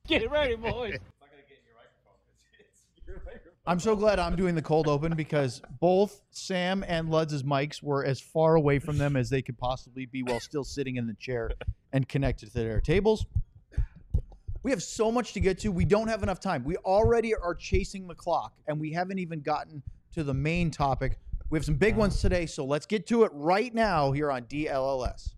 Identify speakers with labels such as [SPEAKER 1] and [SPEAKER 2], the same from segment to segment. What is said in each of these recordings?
[SPEAKER 1] Get it ready, boys.
[SPEAKER 2] I'm so glad I'm doing the cold open because both Sam and Luds' mics were as far away from them as they could possibly be while still sitting in the chair and connected to their tables. We have so much to get to. We don't have enough time. We already are chasing the clock, and we haven't even gotten to the main topic. We have some big ones today, so let's get to it right now here on DLLS.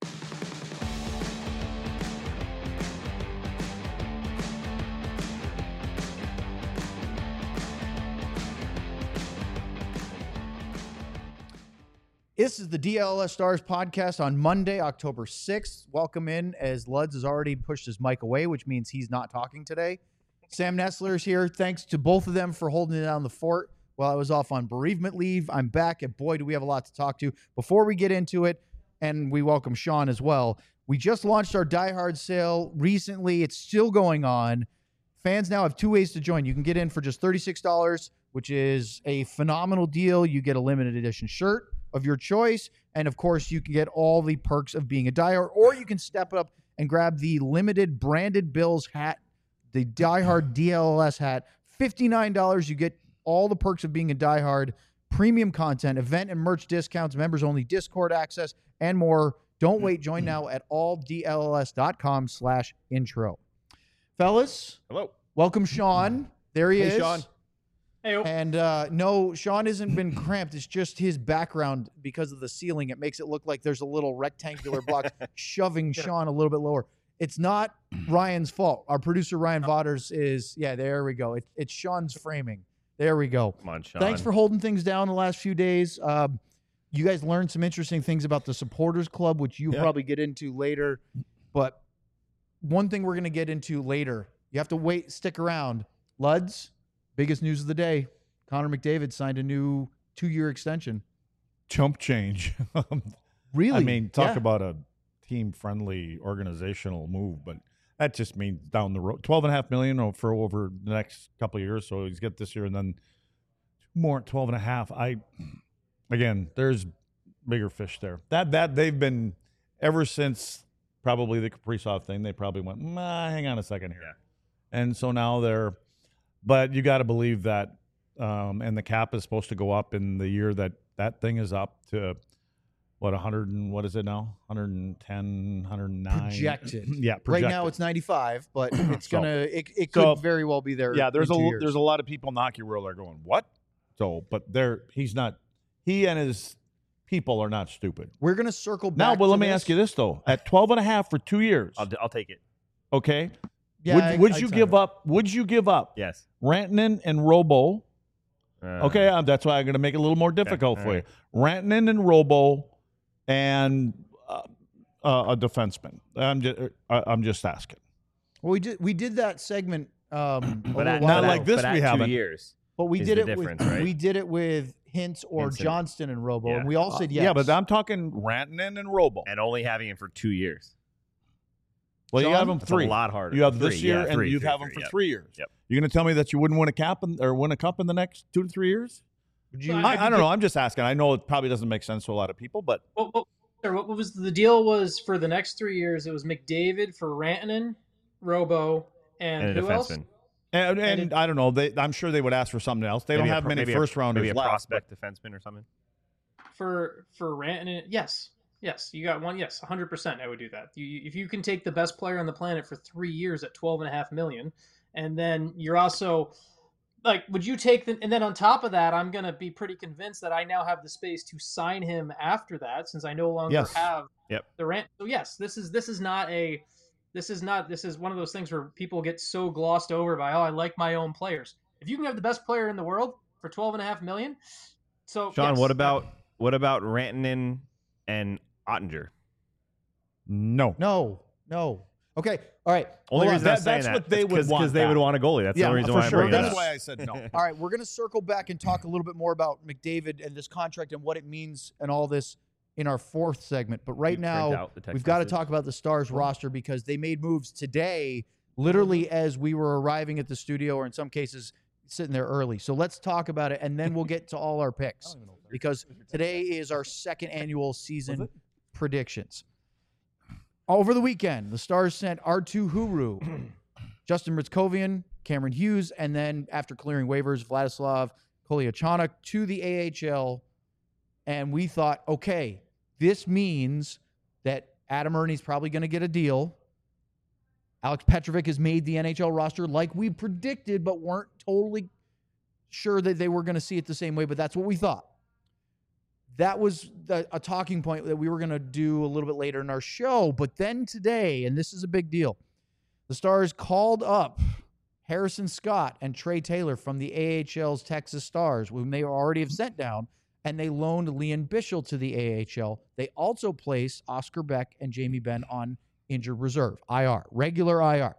[SPEAKER 2] This is the DLS Stars podcast on Monday, October 6th. Welcome in as Luds has already pushed his mic away, which means he's not talking today. Sam Nestler is here. Thanks to both of them for holding it down the fort while I was off on bereavement leave. I'm back, and boy, do we have a lot to talk to. Before we get into it, and we welcome Sean as well, we just launched our Die Hard sale recently. It's still going on. Fans now have two ways to join. You can get in for just $36, which is a phenomenal deal. You get a limited edition shirt of your choice, and of course you can get all the perks of being a diehard, or you can step up and grab the limited branded Bills hat, the diehard DLS hat. $59. You get all the perks of being a diehard, premium content, event and merch discounts, members only Discord access, and more. Don't wait. Join now at alldlls.com/intro. Fellas,
[SPEAKER 3] hello,
[SPEAKER 2] welcome Sean. There he is.
[SPEAKER 3] Hey Sean.
[SPEAKER 1] Hey-o.
[SPEAKER 2] And no, Sean hasn't been cramped. It's just his background because of the ceiling. It makes it look like there's a little rectangular block shoving Sean a little bit lower. It's not Ryan's fault. Our producer, Ryan Vaughters, is, yeah, there we go. It's Sean's framing. There we go.
[SPEAKER 3] Come on, Sean.
[SPEAKER 2] Thanks for holding things down the last few days. You guys learned some interesting things about the Supporters Club, which you'll probably get into later. But one thing we're going to get into later, you have to wait, stick around. Luds, biggest news of the day, Connor McDavid signed a new 2-year extension.
[SPEAKER 4] Chump change.
[SPEAKER 2] Really?
[SPEAKER 4] I mean, talk about a team-friendly organizational move, but that just means down the road, $12.5 million for over the next couple of years. So he's got this year and then more, 12.5. Again, there's bigger fish there. That they've been ever since probably the Kaprizov thing. They probably went, hang on a second here, and so now they're. But you got to believe that, and the cap is supposed to go up in the year that thing is up to, what, 100 and what is it now? 110, 109?
[SPEAKER 2] Projected.
[SPEAKER 4] Yeah, projected.
[SPEAKER 2] Right now it's 95, but it's it
[SPEAKER 4] So-
[SPEAKER 2] could very well be there.
[SPEAKER 4] Yeah, there's
[SPEAKER 2] in 2 years.
[SPEAKER 4] there's a lot of people in the hockey world that are going, what? So, but he's not, he and his people are not stupid.
[SPEAKER 2] We're going to circle back.
[SPEAKER 4] Now, but
[SPEAKER 2] to
[SPEAKER 4] let me
[SPEAKER 2] this.
[SPEAKER 4] ask you this, though. At 12.5 for 2 years,
[SPEAKER 3] I'll take it.
[SPEAKER 4] okay?
[SPEAKER 2] Yeah,
[SPEAKER 4] Would
[SPEAKER 2] I'd
[SPEAKER 4] you
[SPEAKER 2] sign
[SPEAKER 4] give
[SPEAKER 2] it.
[SPEAKER 4] up? Would you give up
[SPEAKER 3] Yes.
[SPEAKER 4] Rantanen and Robo? Okay, that's why I'm going to make it a little more difficult
[SPEAKER 3] all
[SPEAKER 4] for
[SPEAKER 3] right.
[SPEAKER 4] you. Rantanen and Robo and a defenseman. I'm just asking.
[SPEAKER 2] Well, we did that segment a little
[SPEAKER 3] at,
[SPEAKER 2] while
[SPEAKER 4] not
[SPEAKER 2] ago,
[SPEAKER 4] like this
[SPEAKER 3] but at
[SPEAKER 4] we
[SPEAKER 3] 2
[SPEAKER 4] haven't.
[SPEAKER 3] years.
[SPEAKER 2] but we
[SPEAKER 3] is
[SPEAKER 2] did
[SPEAKER 3] the
[SPEAKER 2] it with
[SPEAKER 3] difference, right?
[SPEAKER 2] we did it with Hintz or
[SPEAKER 3] Hintz and-
[SPEAKER 2] Johnston and Robo,
[SPEAKER 3] Yeah.
[SPEAKER 2] and we all said yes.
[SPEAKER 4] Yeah, but I'm talking Rantanen and Robo.
[SPEAKER 3] And only having him for 2 years.
[SPEAKER 4] Well, you
[SPEAKER 2] Sean?
[SPEAKER 4] have them
[SPEAKER 3] That's
[SPEAKER 4] three.
[SPEAKER 3] a lot harder.
[SPEAKER 4] You have
[SPEAKER 3] Three,
[SPEAKER 4] this year,
[SPEAKER 3] yeah,
[SPEAKER 4] and
[SPEAKER 3] three,
[SPEAKER 4] you
[SPEAKER 3] three,
[SPEAKER 4] have them
[SPEAKER 3] three,
[SPEAKER 4] for
[SPEAKER 3] yep.
[SPEAKER 4] 3 years.
[SPEAKER 3] Yep.
[SPEAKER 4] You're going to tell me that you wouldn't win a cap or win a cup in the next 2 to 3 years?
[SPEAKER 2] Would you,
[SPEAKER 4] I don't know. I'm just asking. I know it probably doesn't make sense to a lot of people, but
[SPEAKER 1] What was the deal? Was for the next 3 years? It was McDavid for Rantanen, Robo, and
[SPEAKER 3] And a
[SPEAKER 1] who else?
[SPEAKER 3] defenseman.
[SPEAKER 4] and I don't know. I'm sure they would ask for something else. They don't have many first rounders
[SPEAKER 3] Maybe a
[SPEAKER 4] left.
[SPEAKER 3] prospect defenseman or something.
[SPEAKER 1] For Rantanen, yes, you got one. Yes, 100%. I would do that. If you can take the best player on the planet for 3 years at $12.5 million, and then you're also like, would you take the? And then on top of that, I'm gonna be pretty convinced that I now have the space to sign him after that, since I no longer
[SPEAKER 4] Yes.
[SPEAKER 1] have
[SPEAKER 3] Yep.
[SPEAKER 1] the rent. So yes, this is one of those things where people get so glossed over by, I like my own players. If you can have the best player in the world for $12.5 million, so
[SPEAKER 3] Sean,
[SPEAKER 1] yes,
[SPEAKER 3] what about Rantanen and Ottinger?
[SPEAKER 4] No.
[SPEAKER 2] no. Okay, all right.
[SPEAKER 3] Only
[SPEAKER 4] Hold on,
[SPEAKER 3] reason I'm saying
[SPEAKER 4] that's
[SPEAKER 3] that
[SPEAKER 4] what they would want
[SPEAKER 3] because they
[SPEAKER 4] that.
[SPEAKER 3] would want a goalie. That's the only reason
[SPEAKER 4] for
[SPEAKER 3] why
[SPEAKER 4] sure.
[SPEAKER 3] I'm bringing it
[SPEAKER 4] That's
[SPEAKER 3] up.
[SPEAKER 4] why I said no.
[SPEAKER 2] All right, we're going to circle back and talk a little bit more about McDavid and this contract and what it means and all this in our fourth segment. But right
[SPEAKER 3] You print
[SPEAKER 2] now,
[SPEAKER 3] out the text
[SPEAKER 2] we've got to
[SPEAKER 3] message.
[SPEAKER 2] talk about the Stars roster because they made moves today, literally as we were arriving at the studio, or in some cases, sitting there early. So let's talk about it, and then we'll get to all our picks because today is our second annual season predictions. Over the weekend, the Stars sent R2 Huru, Justin Ritzkovian, Cameron Hughes, and then after clearing waivers, Vladislav Kolyachonok to the AHL. And we thought, okay, this means that Adam Ernie's probably going to get a deal. Alex Petrovic has made the NHL roster like we predicted, but weren't totally sure that they were going to see it the same way, but that's what we thought. That was a talking point that we were going to do a little bit later in our show. But then today, and this is a big deal, the Stars called up Harrison Scott and Trey Taylor from the AHL's Texas Stars, whom they already have sent down, and they loaned Liam Bichsel to the AHL. They also placed Oscar Beck and Jamie Benn on injured reserve, IR, regular IR.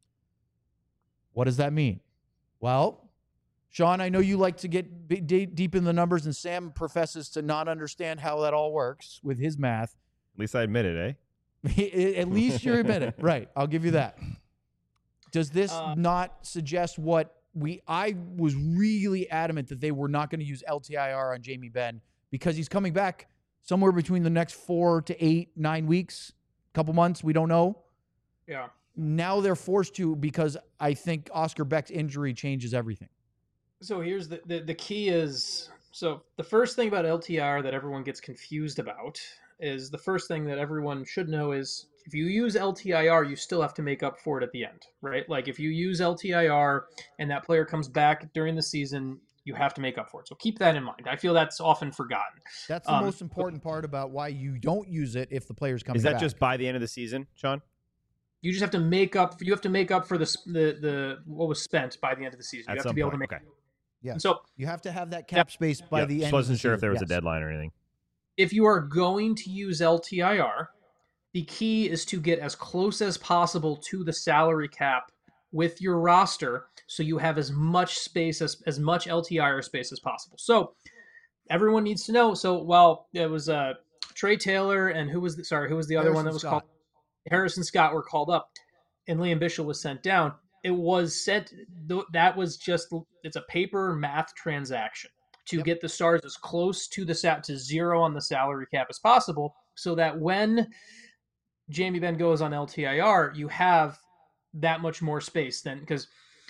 [SPEAKER 2] What does that mean? Well, Sean, I know you like to get deep in the numbers, and Sam professes to not understand how that all works with his math.
[SPEAKER 3] At least I admit it, eh?
[SPEAKER 2] At least you admit it. Right. I'll give you that. Does this not suggest what I was really adamant that they were not going to use LTIR on Jamie Benn because he's coming back somewhere between the next 4 to 8, 9 weeks, couple months. We don't know.
[SPEAKER 1] Yeah.
[SPEAKER 2] Now they're forced to because I think Oscar Beck's injury changes everything.
[SPEAKER 1] So here's the key is, so the first thing about LTIR that everyone gets confused about is the first thing that everyone should know is if you use LTIR, you still have to make up for it at the end, right? Like if you use LTIR and that player comes back during the season, you have to make up for it. So keep that in mind. I feel that's often forgotten.
[SPEAKER 2] That's the most important part about why you don't use it if the player's coming back.
[SPEAKER 3] Is that just by the end of the season, Sean?
[SPEAKER 1] You just have to make up. You have to make up for the what was spent by the end of the season. You have to be able to make.
[SPEAKER 3] Okay.
[SPEAKER 2] Yeah.
[SPEAKER 1] So
[SPEAKER 2] you have to have that cap space by the end.
[SPEAKER 3] Just wasn't sure if there was
[SPEAKER 2] yes.
[SPEAKER 3] a deadline or anything.
[SPEAKER 1] If you are going to use LTIR, the key is to get as close as possible to the salary cap with your roster, so you have as much space as much LTIR space as possible. So everyone needs to know. So while it was Trey Taylor and who was the other one that was called? Harrison Scott were called up, and Liam Bichsel was sent down. It was sent. That was just it's a paper math transaction to get the Stars as close to to zero on the salary cap as possible, so that when Jamie Benn goes on LTIR, you have that much more space then because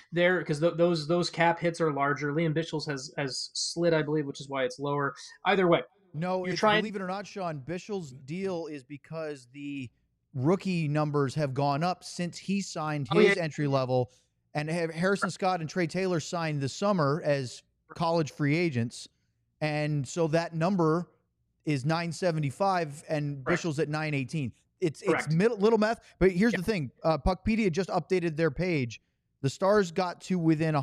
[SPEAKER 1] those cap hits are larger. Liam Bichsel's has slid, I believe, which is why it's lower. Either way,
[SPEAKER 2] no, believe it or not, Sean, Bichsel's deal is because the rookie numbers have gone up since he signed his entry level, and Harrison Scott and Trey Taylor signed this summer as college free agents, and so that number is 975 and Bichsel's at 918. It's little math, but here's the thing: Puckpedia just updated their page. The Stars got to within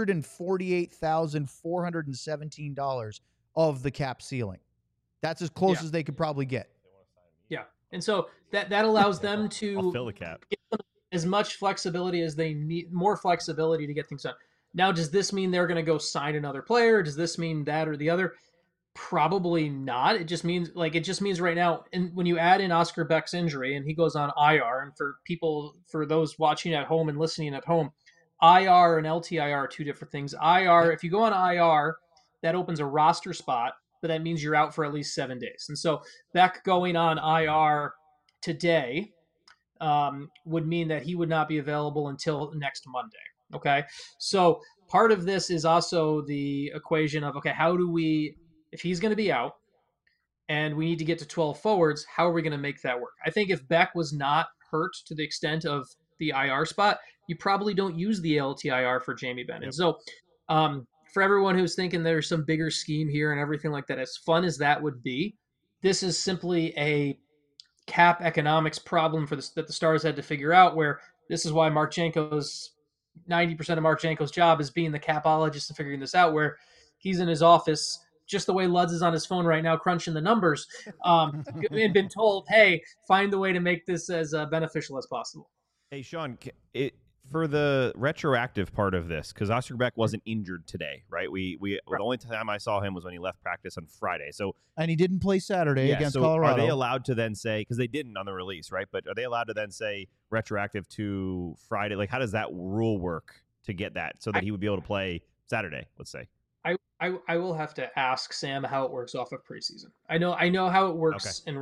[SPEAKER 2] $148,417 of the cap ceiling. That's as close as they could probably get.
[SPEAKER 1] Yeah. And so that allows them to
[SPEAKER 3] fill the cap.
[SPEAKER 1] Get as much flexibility as they need, more flexibility to get things done. Now, does this mean they're going to go sign another player? Does this mean that or the other? Probably not. It just means right now, and when you add in Oscar Beck's injury and he goes on IR, and for those watching at home and listening at home, IR and LTIR are two different things. IR, if you go on IR, that opens a roster spot, but that means you're out for at least 7 days. And so Beck going on IR today would mean that he would not be available until next Monday. Okay. So part of this is also the equation of, okay, how do we, if he's going to be out and we need to get to 12 forwards, how are we going to make that work? I think if Beck was not hurt to the extent of the IR spot, you probably don't use the LTIR for Jamie Benn. Yep. And so for everyone who's thinking there's some bigger scheme here and everything like that, as fun as that would be, this is simply a cap economics problem that the Stars had to figure out, where this is why 90% of Mark Janko's job is being the capologist and figuring this out, where he's in his office just the way Luds is on his phone right now crunching the numbers and been told, hey, find the way to make this as beneficial as possible.
[SPEAKER 3] Hey, Sean, for the retroactive part of this, because Oscar Beck wasn't injured today, right? The only time I saw him was when he left practice on Friday.
[SPEAKER 2] And he didn't play Saturday against Colorado.
[SPEAKER 3] Are they allowed to then say, because they didn't on the release, right? But are they allowed to then say retroactive to Friday? Like, how does that rule work to get that so that he would be able to play Saturday, let's say?
[SPEAKER 1] I will have to ask Sam how it works off of preseason. I know how it works in regular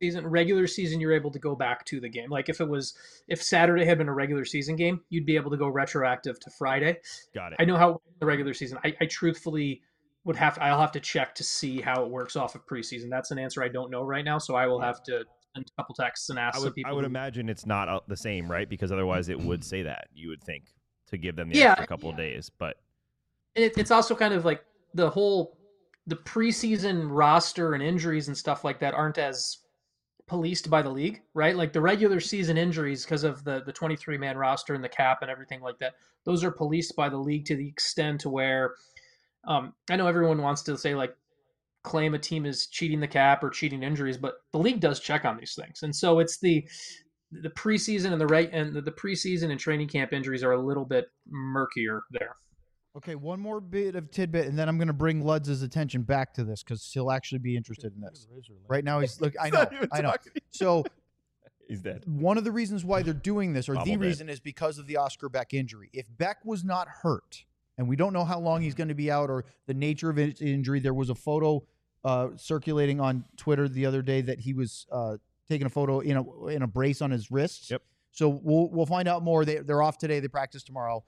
[SPEAKER 1] regular season, you're able to go back to the game. Like if Saturday had been a regular season game, you'd be able to go retroactive to Friday.
[SPEAKER 3] Got it.
[SPEAKER 1] I know how the regular season. I truthfully I'll have to check to see how it works off of preseason. That's an answer I don't know right now, so I will have to send a couple texts and ask some people.
[SPEAKER 3] I would imagine it's not the same, right? Because otherwise it would say that, you would think, to give them the extra couple of days. But
[SPEAKER 1] it's also kind of like the preseason roster and injuries and stuff like that aren't as policed by the league, right? Like the regular season injuries, because of the 23-man roster and the cap and everything like that, those are policed by the league to the extent to where I know everyone wants to say like claim a team is cheating the cap or cheating injuries, but the league does check on these things, and so it's the preseason and the preseason and training camp injuries are a little bit murkier there.
[SPEAKER 2] Okay, one more bit of tidbit, and then I'm going to bring Ludz's attention back to this because he'll actually be interested in this. Right now, he's look. I know. So
[SPEAKER 3] he's dead.
[SPEAKER 2] One of the reasons why they're doing this, or the reason, is because of the Oscar Beck injury. If Beck was not hurt, and we don't know how long he's going to be out or the nature of his injury, there was a photo circulating on Twitter the other day that he was taking a photo in a brace on his wrists.
[SPEAKER 3] Yep.
[SPEAKER 2] So we'll find out more. They're off today. They practice tomorrow,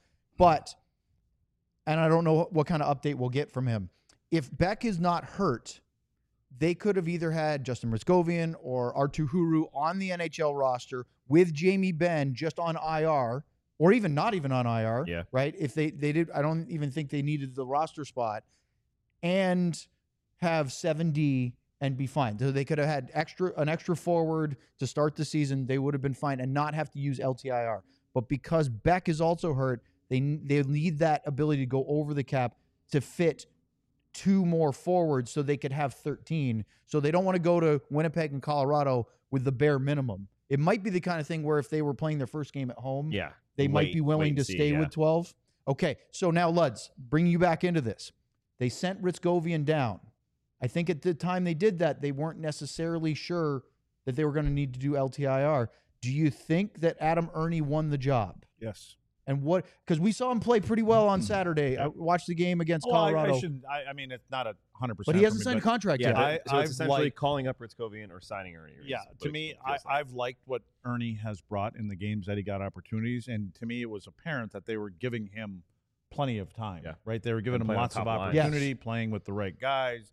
[SPEAKER 2] and I don't know what kind of update we'll get from him. If Beck is not hurt, they could have either had Justin Riscovian or Artu Huru on the NHL roster with Jamie Benn just on IR, or even not even on IR.
[SPEAKER 3] Yeah.
[SPEAKER 2] Right? If they did, I don't even think they needed the roster spot, and have 7D and be fine. So they could have had an extra forward to start the season. They would have been fine and not have to use LTIR. But because Beck is also hurt, they need that ability to go over the cap to fit 2 more forwards so they could have 13. So they don't want to go to Winnipeg and Colorado with the bare minimum. It might be the kind of thing where if they were playing their first game at home, they might be willing to stay with 12. Okay, so now Luds, bring you back into this. They sent Riscovian down. I think at the time they did that, they weren't necessarily sure that they were going to need to do LTIR. Do you think that Adam Erne won the job?
[SPEAKER 4] Yes.
[SPEAKER 2] And what? Because we saw him play pretty well on Saturday. I watched the game against Colorado.
[SPEAKER 4] I mean, it's not 100%.
[SPEAKER 2] But he hasn't signed a contract yet.
[SPEAKER 3] So it's essentially calling up Riscovian or signing Erne.
[SPEAKER 4] Yeah, to me, I've liked what Erne has brought in the games that he got opportunities. And to me, it was apparent that they were giving him plenty of time.
[SPEAKER 3] Yeah.
[SPEAKER 4] Right? They were giving him lots of opportunity, playing with the right guys.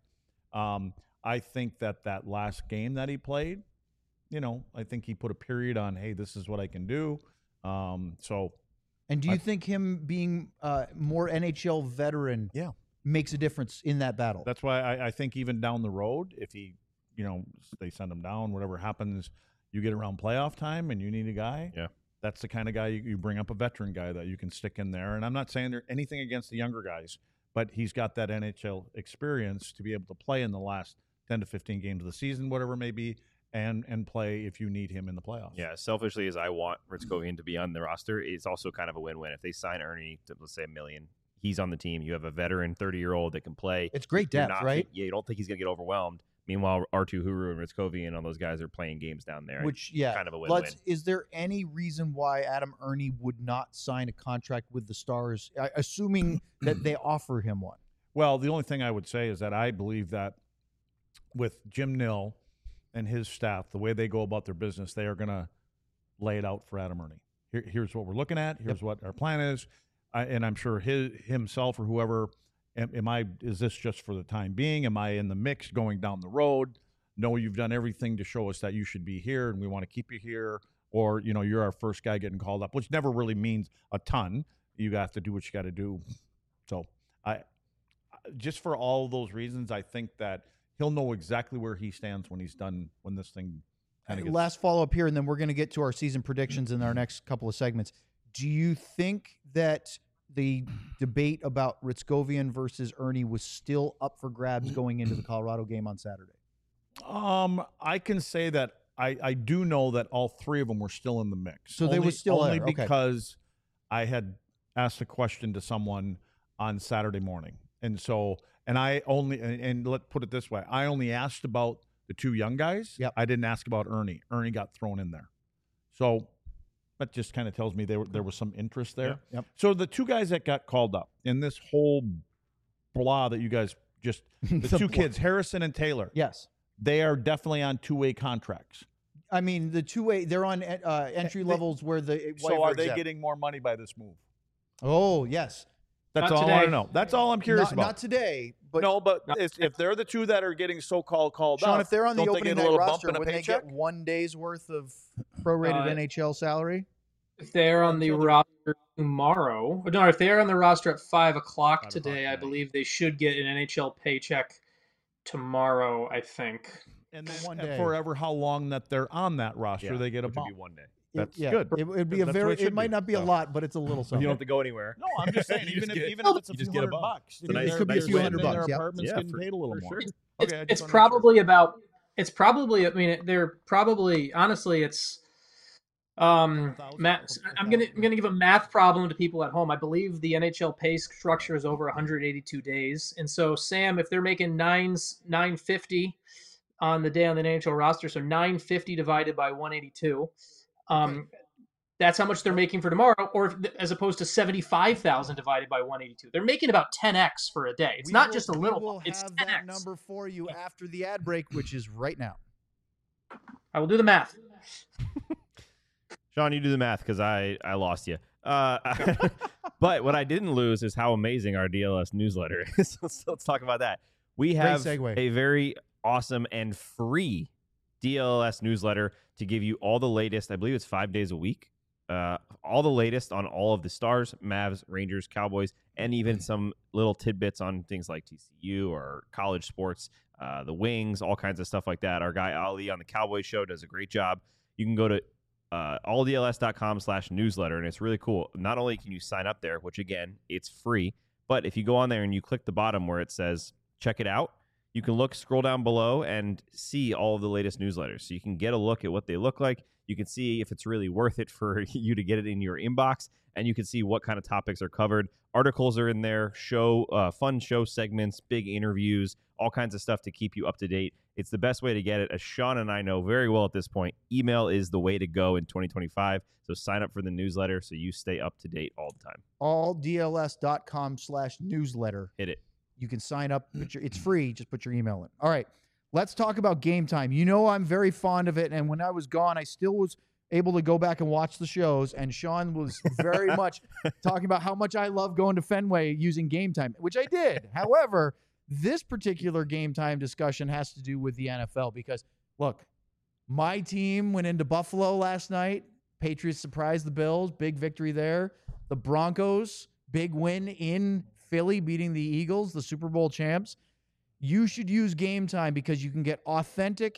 [SPEAKER 4] I think that last game that he played, I think he put a period on, hey, this is what I can do.
[SPEAKER 2] And do you think him being more NHL veteran makes a difference in that battle?
[SPEAKER 4] That's why I think even down the road, if he, they send him down, whatever happens, you get around playoff time and you need a guy.
[SPEAKER 3] Yeah.
[SPEAKER 4] That's the kind of guy you bring up, a veteran guy that you can stick in there. And I'm not saying there's anything against the younger guys, but he's got that NHL experience to be able to play in the last 10 to 15 games of the season, whatever it may be, and play if you need him in the playoffs.
[SPEAKER 3] Yeah, selfishly as I want Riscovian to be on the roster, it's also kind of a win-win. If they sign Erne to, let's say, $1 million, he's on the team. You have a veteran 30-year-old that can play.
[SPEAKER 2] It's great depth, right?
[SPEAKER 3] Yeah, you don't think he's going to get overwhelmed. Meanwhile, Artu Huru and Riscovian and all those guys are playing games down there.
[SPEAKER 2] Which,
[SPEAKER 3] kind of a win-win.
[SPEAKER 2] Is there any reason why Adam Erne would not sign a contract with the Stars, assuming that they offer him one?
[SPEAKER 4] Well, the only thing I would say is that I believe that with Jim Nill and his staff, the way they go about their business, they are going to lay it out for Adam Erne. Here's what we're looking at. Here's what our plan is. And I'm sure himself or whoever, is this just for the time being? Am I in the mix going down the road? No, you've done everything to show us that you should be here and we want to keep you here. Or, you're our first guy getting called up, which never really means a ton. You have to do what you got to do. So just for all those reasons, I think that he'll know exactly where he stands when he's done, when this thing kind of gets...
[SPEAKER 2] Last follow-up here, and then we're going to get to our season predictions in our next couple of segments. Do you think that the debate about Riscovian versus Erne was still up for grabs going into the Colorado game on Saturday?
[SPEAKER 4] I can say that I do know that all 3 of them were still in the mix.
[SPEAKER 2] So they were still
[SPEAKER 4] only
[SPEAKER 2] there.
[SPEAKER 4] Because I had asked a question to someone on Saturday morning. And so, and let's put it this way, I only asked about the 2 young guys.
[SPEAKER 2] Yep.
[SPEAKER 4] I didn't ask about Erne. Erne got thrown in there. So that just kind of tells me there was some interest there.
[SPEAKER 2] Yep.
[SPEAKER 4] So the 2 guys that got called up in this whole blah that you guys just, the 2 kids, Harrison and Taylor.
[SPEAKER 2] Yes.
[SPEAKER 4] they are definitely on two-way contracts.
[SPEAKER 2] I mean, the two-way, they're on entry levels where the
[SPEAKER 4] So are they
[SPEAKER 2] exempt.
[SPEAKER 4] getting more money by this move?
[SPEAKER 2] Oh, yes.
[SPEAKER 4] That's
[SPEAKER 1] Not
[SPEAKER 4] all I want
[SPEAKER 1] today.
[SPEAKER 4] to know. That's all I'm curious about.
[SPEAKER 2] Not today, but
[SPEAKER 4] no, but if they're the two that are getting so-called called
[SPEAKER 2] Sean,
[SPEAKER 4] up,
[SPEAKER 2] if they're on the
[SPEAKER 4] don't they
[SPEAKER 2] opening
[SPEAKER 4] get a
[SPEAKER 2] night
[SPEAKER 4] little
[SPEAKER 2] roster,
[SPEAKER 4] bump in a
[SPEAKER 2] wouldn't they
[SPEAKER 4] paycheck?
[SPEAKER 2] get 1 day's worth of prorated NHL salary?
[SPEAKER 1] If they're on the roster tomorrow, no, if they're on the roster at 5 o'clock
[SPEAKER 3] 5 o'clock
[SPEAKER 1] today, I
[SPEAKER 3] tonight.
[SPEAKER 1] believe they should get an NHL paycheck tomorrow, I think.
[SPEAKER 4] And
[SPEAKER 2] For
[SPEAKER 4] then
[SPEAKER 2] 1 day.
[SPEAKER 4] forever, how long that they're on that roster, they get a
[SPEAKER 3] which would
[SPEAKER 4] bump.
[SPEAKER 3] be 1 day.
[SPEAKER 4] That's
[SPEAKER 2] yeah,
[SPEAKER 4] good.
[SPEAKER 2] It would be a
[SPEAKER 4] That's what
[SPEAKER 2] very.
[SPEAKER 4] it should
[SPEAKER 2] It might
[SPEAKER 4] be.
[SPEAKER 2] not be a
[SPEAKER 3] So-
[SPEAKER 2] lot, but it's a little
[SPEAKER 3] You
[SPEAKER 2] something.
[SPEAKER 3] don't have to go anywhere.
[SPEAKER 4] No, I'm just saying,
[SPEAKER 3] You
[SPEAKER 4] even
[SPEAKER 3] just
[SPEAKER 4] if
[SPEAKER 3] get-
[SPEAKER 4] even if it's a
[SPEAKER 3] you
[SPEAKER 4] few
[SPEAKER 3] just get a
[SPEAKER 4] $100
[SPEAKER 3] bump.
[SPEAKER 4] bucks,
[SPEAKER 3] It's a nice-
[SPEAKER 2] It could be a
[SPEAKER 3] nice
[SPEAKER 2] few
[SPEAKER 3] win.
[SPEAKER 2] $100
[SPEAKER 4] in their
[SPEAKER 2] bucks, yep.
[SPEAKER 4] apartments
[SPEAKER 3] Yeah,
[SPEAKER 4] getting
[SPEAKER 3] for-
[SPEAKER 4] paid a little
[SPEAKER 3] for
[SPEAKER 4] more.
[SPEAKER 3] sure.
[SPEAKER 4] Okay, I just
[SPEAKER 1] It's
[SPEAKER 4] wanna make sure.
[SPEAKER 1] probably about. It's probably. I mean, they're probably. Honestly, it's. Matt, I'm gonna give a math problem to people at home. I believe the NHL pay structure is over 182 days, and so Sam, if they're making 950 on the day on the NHL roster, so 950 divided by 182, that's how much they're making for tomorrow, or as opposed to 75,000 divided by 182. They're making about 10x for a day. It's
[SPEAKER 2] We
[SPEAKER 1] not
[SPEAKER 2] will-
[SPEAKER 1] just a
[SPEAKER 2] we
[SPEAKER 1] little.
[SPEAKER 2] will
[SPEAKER 1] It's
[SPEAKER 2] have
[SPEAKER 1] 10x.
[SPEAKER 2] that number for you after the ad break, which is right now.
[SPEAKER 1] I will do the math.
[SPEAKER 3] Sean, you do the math because I lost you. But what I didn't lose is how amazing our DLS newsletter is. So let's talk about that. We have
[SPEAKER 2] segue.
[SPEAKER 3] a very awesome and free DLS newsletter to give you all the latest. I believe it's 5 days a week. All the latest on all of the Stars, Mavs, Rangers, Cowboys, and even some little tidbits on things like TCU or college sports, the Wings, all kinds of stuff like that. Our guy Ali on the Cowboys show does a great job. You can go to alldls.com/newsletter, and it's really cool. Not only can you sign up there, which again, it's free, but if you go on there and you click the bottom where it says check it out, you can scroll down below and see all of the latest newsletters. So you can get a look at what they look like. You can see if it's really worth it for you to get it in your inbox, and you can see what kind of topics are covered. Articles are in there, fun show segments, big interviews, all kinds of stuff to keep you up to date. It's the best way to get it. As Sean and I know very well at this point, email is the way to go in 2025. So sign up for the newsletter so you stay up to date all the time.
[SPEAKER 2] alldls.com/newsletter.
[SPEAKER 3] Hit it.
[SPEAKER 2] You can sign up. It's free. Just put your email in. All right. Let's talk about Game Time. You know I'm very fond of it, and when I was gone, I still was able to go back and watch the shows, and Sean was very much talking about how much I love going to Fenway using Game Time, which I did. However, this particular Game Time discussion has to do with the NFL because, look, my team went into Buffalo last night. Patriots surprised the Bills. Big victory there. The Broncos, big win in Philly, beating the Eagles, the Super Bowl champs. You should use Game Time because you can get authentic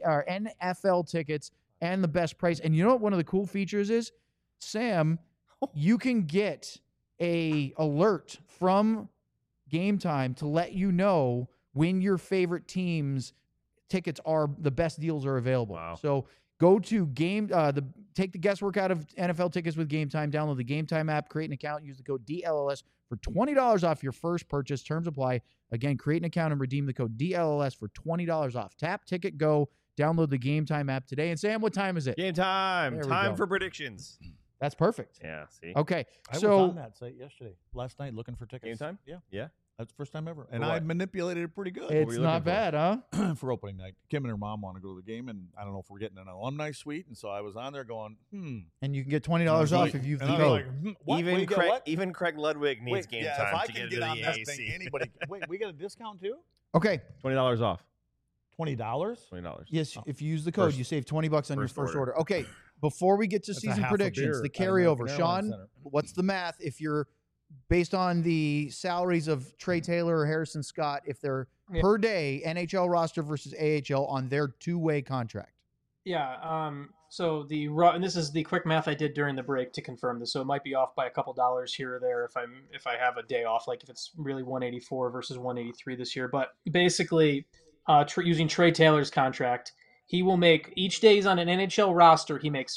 [SPEAKER 2] NFL tickets and the best price. And you know what one of the cool features is? Sam, you can get a alert from Game Time to let you know when your favorite team's tickets are the best deals are available.
[SPEAKER 3] Wow.
[SPEAKER 2] So go to take the guesswork out of NFL tickets with Game Time. Download the Game Time app, create an account, use the code DLLS for $20 off your first purchase. Terms apply. Again, create an account and redeem the code DLLS for $20 off. Tap, ticket, go. Download the Game Time app today. And Sam, what time is it?
[SPEAKER 3] Game time.
[SPEAKER 2] There we
[SPEAKER 3] Time
[SPEAKER 2] go.
[SPEAKER 3] for predictions.
[SPEAKER 2] That's perfect.
[SPEAKER 3] Yeah, see?
[SPEAKER 2] Okay,
[SPEAKER 4] I was
[SPEAKER 2] so
[SPEAKER 4] on that site yesterday, last night, looking for tickets.
[SPEAKER 3] Game Time?
[SPEAKER 4] Yeah.
[SPEAKER 3] Yeah.
[SPEAKER 4] That's the first time ever. And
[SPEAKER 3] For
[SPEAKER 4] I
[SPEAKER 3] what?
[SPEAKER 4] manipulated it pretty good.
[SPEAKER 2] it's
[SPEAKER 3] you
[SPEAKER 2] not
[SPEAKER 3] looking for?
[SPEAKER 2] bad, huh?
[SPEAKER 4] For opening night. Kim and her mom want to go to the game, and I don't know if we're getting an alumni suite. And so I was on there going,
[SPEAKER 2] And you can get $20 off if you've
[SPEAKER 4] and
[SPEAKER 2] the
[SPEAKER 4] I was
[SPEAKER 2] code.
[SPEAKER 4] like, what?
[SPEAKER 3] Even
[SPEAKER 4] Wait, you get
[SPEAKER 3] Craig,
[SPEAKER 4] what?
[SPEAKER 3] even Craig Ludwig needs
[SPEAKER 4] Wait,
[SPEAKER 3] game
[SPEAKER 4] yeah,
[SPEAKER 3] time
[SPEAKER 4] if I
[SPEAKER 3] to
[SPEAKER 4] can
[SPEAKER 3] get
[SPEAKER 4] get
[SPEAKER 3] into
[SPEAKER 4] on
[SPEAKER 3] the
[SPEAKER 4] that
[SPEAKER 3] AAC.
[SPEAKER 4] thing, anybody. Wait, we get a discount too?
[SPEAKER 2] Okay,
[SPEAKER 3] $20 off.
[SPEAKER 4] $20?
[SPEAKER 3] $20.
[SPEAKER 2] yes, if you use the code,
[SPEAKER 3] First-
[SPEAKER 2] you save $20 on your
[SPEAKER 3] first
[SPEAKER 2] first
[SPEAKER 3] order.
[SPEAKER 2] order. Okay, before we get to
[SPEAKER 4] That's a
[SPEAKER 2] season
[SPEAKER 4] half a
[SPEAKER 2] predictions,
[SPEAKER 4] beer
[SPEAKER 2] the
[SPEAKER 4] at American
[SPEAKER 2] carryover.
[SPEAKER 4] Airlines
[SPEAKER 2] Sean,
[SPEAKER 4] Center.
[SPEAKER 2] what's the math if you're based on the salaries of Trey Taylor or Harrison Scott, if they're
[SPEAKER 1] Yeah.
[SPEAKER 2] per day NHL roster versus AHL on their two-way contract?
[SPEAKER 1] Yeah. So and this is the quick math I did during the break to confirm this. So it might be off by a couple dollars here or there if I have a day off, like if it's really 184 versus 183 this year. But basically, using Trey Taylor's contract, he will make each day he's on an NHL roster. He makes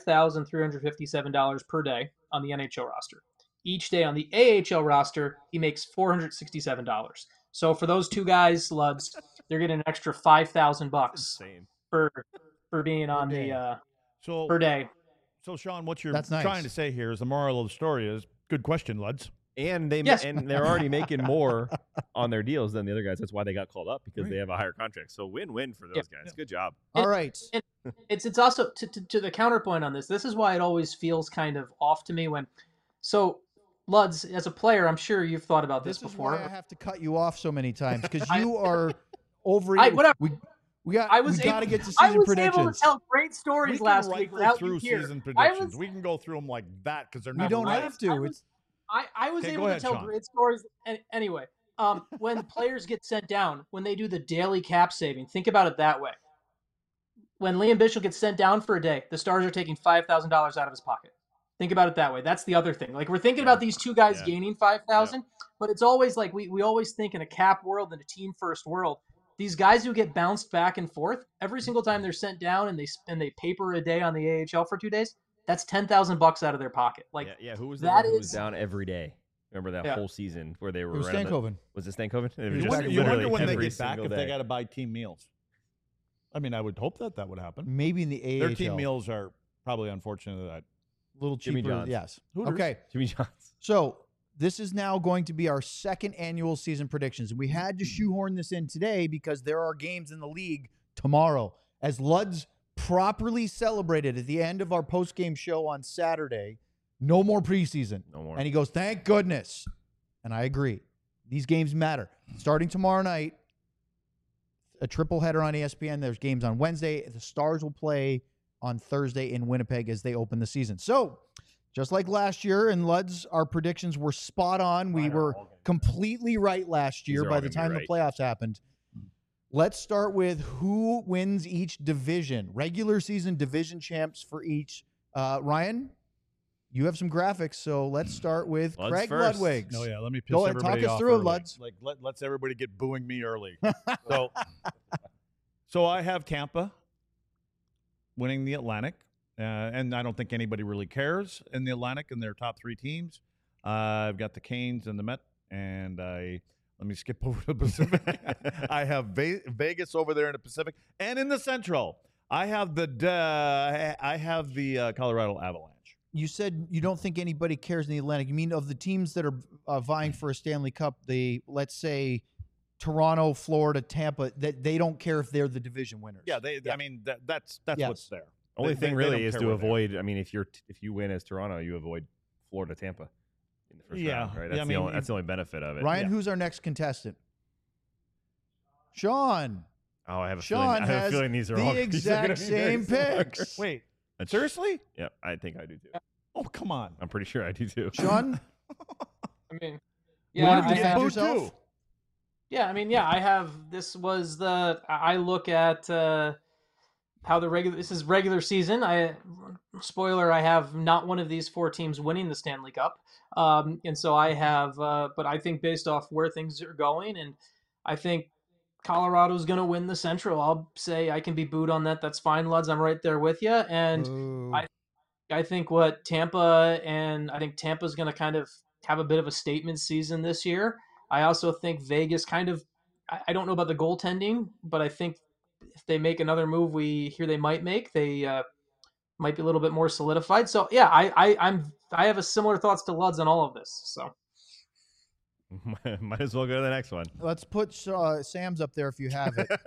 [SPEAKER 1] $5,357 per day on the NHL roster. Each day on the AHL roster, he makes $467. So for those two guys, Luds, they're getting an extra $5,000
[SPEAKER 3] Insane.
[SPEAKER 1] for being on
[SPEAKER 2] day.
[SPEAKER 1] the
[SPEAKER 4] So,
[SPEAKER 1] per day.
[SPEAKER 4] so Sean, what you're
[SPEAKER 2] That's nice.
[SPEAKER 4] trying to say here is the moral of the story is good question, Luds.
[SPEAKER 3] And they're already making more on their deals than the other guys. That's why they got called up, because they have a higher contract. So win-win for those guys. Good job.
[SPEAKER 2] All right.
[SPEAKER 1] It's also to the counterpoint on this. This is why it always feels kind of off to me when. So, Luds, as a player, I'm sure you've thought about this before.
[SPEAKER 2] This is why I have to cut you off so many times, because you are over.
[SPEAKER 1] Whatever.
[SPEAKER 2] We got to get to season predictions.
[SPEAKER 1] I was able to tell great stories last week without you here.
[SPEAKER 4] Season predictions. We can go through them like that because they're not.
[SPEAKER 2] We don't
[SPEAKER 4] right.
[SPEAKER 2] have to.
[SPEAKER 1] I was able to tell great stories. Anyway, when players get sent down, when they do the daily cap saving, think about it that way. When Liam Bishop gets sent down for a day, the Stars are taking $5,000 out of his pocket. Think about it that way. That's the other thing. Like, we're thinking about these two guys gaining $5,000, but it's always like we always think in a cap world and a team first world. These guys who get bounced back and forth every single time they're sent down and they paper a day on the AHL for 2 days. That's $10,000 out of their pocket. Like,
[SPEAKER 3] who was that? Who was down every day? Remember that whole season where they were?
[SPEAKER 2] It was Stankoven.
[SPEAKER 3] Was it Stankoven?
[SPEAKER 4] You wonder when they get back if they got to buy team meals. I mean, I would hope that would happen.
[SPEAKER 2] Maybe in the AHL.
[SPEAKER 4] Their team meals are probably, unfortunately, that
[SPEAKER 2] a little cheaper.
[SPEAKER 3] Jimmy John's.
[SPEAKER 2] Yes.
[SPEAKER 4] Hooters.
[SPEAKER 2] Okay.
[SPEAKER 3] Jimmy John's.
[SPEAKER 2] So this is now going to be our second annual season predictions. We had to shoehorn this in today because there are games in the league tomorrow. As Luds properly celebrated at the end of our post-game show on Saturday, no more preseason.
[SPEAKER 3] No more.
[SPEAKER 2] And he goes, thank goodness. And I agree. These games matter. Starting tomorrow night, a triple header on ESPN. There's games on Wednesday. The Stars will play on Thursday in Winnipeg as they open the season. So, just like last year, and Luds, our predictions were spot on. We were completely right last year by the time the playoffs happened. Let's start with who wins each division. Regular season division champs for each. Ryan, you have some graphics, so let's start with
[SPEAKER 3] Luds
[SPEAKER 2] Craig
[SPEAKER 3] first.
[SPEAKER 2] Ludwig.
[SPEAKER 4] No, let me piss
[SPEAKER 2] Go ahead,
[SPEAKER 4] everybody
[SPEAKER 2] talk us
[SPEAKER 4] off
[SPEAKER 2] through it,
[SPEAKER 4] early.
[SPEAKER 2] Luds.
[SPEAKER 4] Like, let's everybody get booing me early. So I have Tampa winning the Atlantic. And I don't think anybody really cares in the Atlantic and their top three teams. I've got the Canes and the Met, and let me skip over to the Pacific. I have Vegas over there in the Pacific, and in the Central, I have the Colorado Avalanche.
[SPEAKER 2] You said you don't think anybody cares in the Atlantic. You mean of the teams that are vying for a Stanley Cup? Let's say Toronto, Florida, Tampa. That they don't care if they're the division winners.
[SPEAKER 4] Yeah, I mean that's what's there.
[SPEAKER 3] Only thing really is to avoid.
[SPEAKER 4] There.
[SPEAKER 3] I mean, if you win as Toronto, you avoid Florida, Tampa in the first
[SPEAKER 4] Yeah,
[SPEAKER 3] round, right?
[SPEAKER 4] yeah,
[SPEAKER 3] That's the only benefit of it.
[SPEAKER 2] Ryan, who's our next contestant? Sean.
[SPEAKER 3] Oh, I have a
[SPEAKER 2] Sean
[SPEAKER 3] feeling these are all
[SPEAKER 2] the exact same picks.
[SPEAKER 4] Wait, seriously?
[SPEAKER 3] Yep, I think I do too.
[SPEAKER 4] Oh, come on.
[SPEAKER 3] I'm pretty sure I do too.
[SPEAKER 2] Sean,
[SPEAKER 1] I mean,
[SPEAKER 2] you want to defend yourself?
[SPEAKER 1] Yeah, I mean, I have. This was I look at how this is regular season. I have not one of these four teams winning the Stanley Cup. And so I have, but I think based off where things are going, and I think Colorado's going to win the Central. I'll say I can be booed on that. That's fine, Luds. I'm right there with you. And I think I think Tampa's going to kind of have a bit of a statement season this year. I also think Vegas I don't know about the goaltending, but I think if they make another move we hear they might make, they might be a little bit more solidified. So yeah, I have a similar thoughts to Luds on all of this. So
[SPEAKER 3] might as well go to the next one.
[SPEAKER 2] Let's put Sam's up there if you have it.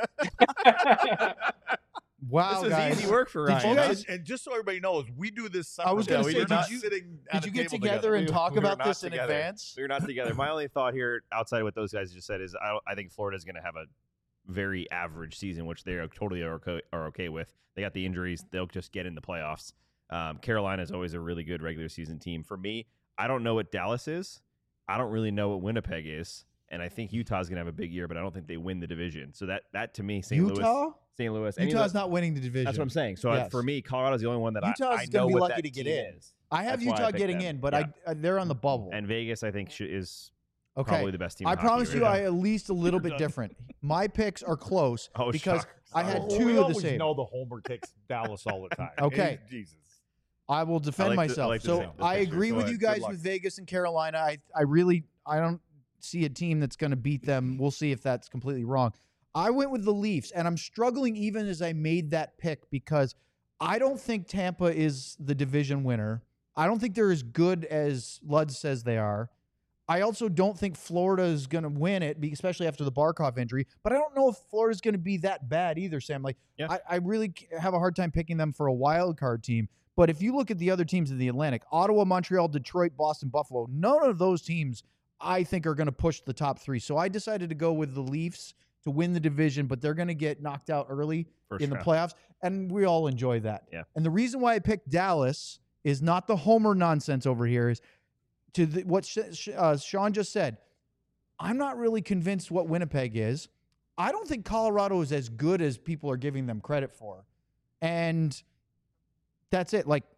[SPEAKER 2] Wow,
[SPEAKER 3] this is
[SPEAKER 2] guys.
[SPEAKER 3] easy work for Ryan.
[SPEAKER 4] And just so everybody knows, we do this.
[SPEAKER 2] I was going to say,
[SPEAKER 4] did
[SPEAKER 2] you get together and talk about this in advance?
[SPEAKER 3] We're not together. My only thought here, outside of what those guys just said, is I think Florida's going to have a very average season, which they are totally are okay with. They got the injuries; they'll just get in the playoffs. Carolina is always a really good regular season team. For me, I don't know what Dallas is. I don't really know what Winnipeg is. And I think Utah's going to have a big year, but I don't think they win the division. So that to me, St. Louis.
[SPEAKER 2] Utah's not winning the division.
[SPEAKER 3] That's what I'm saying. So for me, Colorado's the only one that
[SPEAKER 2] Utah's
[SPEAKER 3] I know
[SPEAKER 2] going to be
[SPEAKER 3] what
[SPEAKER 2] lucky
[SPEAKER 3] that
[SPEAKER 2] to get
[SPEAKER 3] team
[SPEAKER 2] in.
[SPEAKER 3] is.
[SPEAKER 2] I have
[SPEAKER 3] That's why
[SPEAKER 2] Utah
[SPEAKER 3] picked
[SPEAKER 2] getting
[SPEAKER 3] them.
[SPEAKER 2] in, but they're on the bubble.
[SPEAKER 3] And Vegas, I think, is
[SPEAKER 2] okay.
[SPEAKER 3] probably the best team.
[SPEAKER 2] I
[SPEAKER 3] in
[SPEAKER 2] promise
[SPEAKER 3] hockey
[SPEAKER 2] you,
[SPEAKER 3] right
[SPEAKER 2] I at least a little bit different. My picks are close because
[SPEAKER 3] shucks.
[SPEAKER 2] I had
[SPEAKER 4] we
[SPEAKER 2] two of the
[SPEAKER 4] always
[SPEAKER 2] same.
[SPEAKER 4] know the Homer takes Dallas all the time.
[SPEAKER 2] Okay.
[SPEAKER 4] Jesus.
[SPEAKER 2] I will defend myself. So I agree with you guys with Vegas and Carolina. I don't see a team that's going to beat them. We'll see if that's completely wrong. I went with the Leafs, and I'm struggling even as I made that pick because I don't think Tampa is the division winner. I don't think they're as good as Luds says they are. I also don't think Florida is going to win it, especially after the Barkov injury. But I don't know if Florida's going to be that bad either, Sam. Like,
[SPEAKER 3] Yeah.
[SPEAKER 2] I really have a hard time picking them for a wild card team. But if you look at the other teams in the Atlantic, Ottawa, Montreal, Detroit, Boston, Buffalo, none of those teams I think are going to push the top three. So I decided to go with the Leafs to win the division, but they're going to get knocked out early in the playoffs, and we all enjoy that.
[SPEAKER 3] Yeah.
[SPEAKER 2] And the reason why I picked Dallas is not the homer nonsense over here, is to what Sean just said. I'm not really convinced what Winnipeg is. I don't think Colorado is as good as people are giving them credit for. And that's it. Like,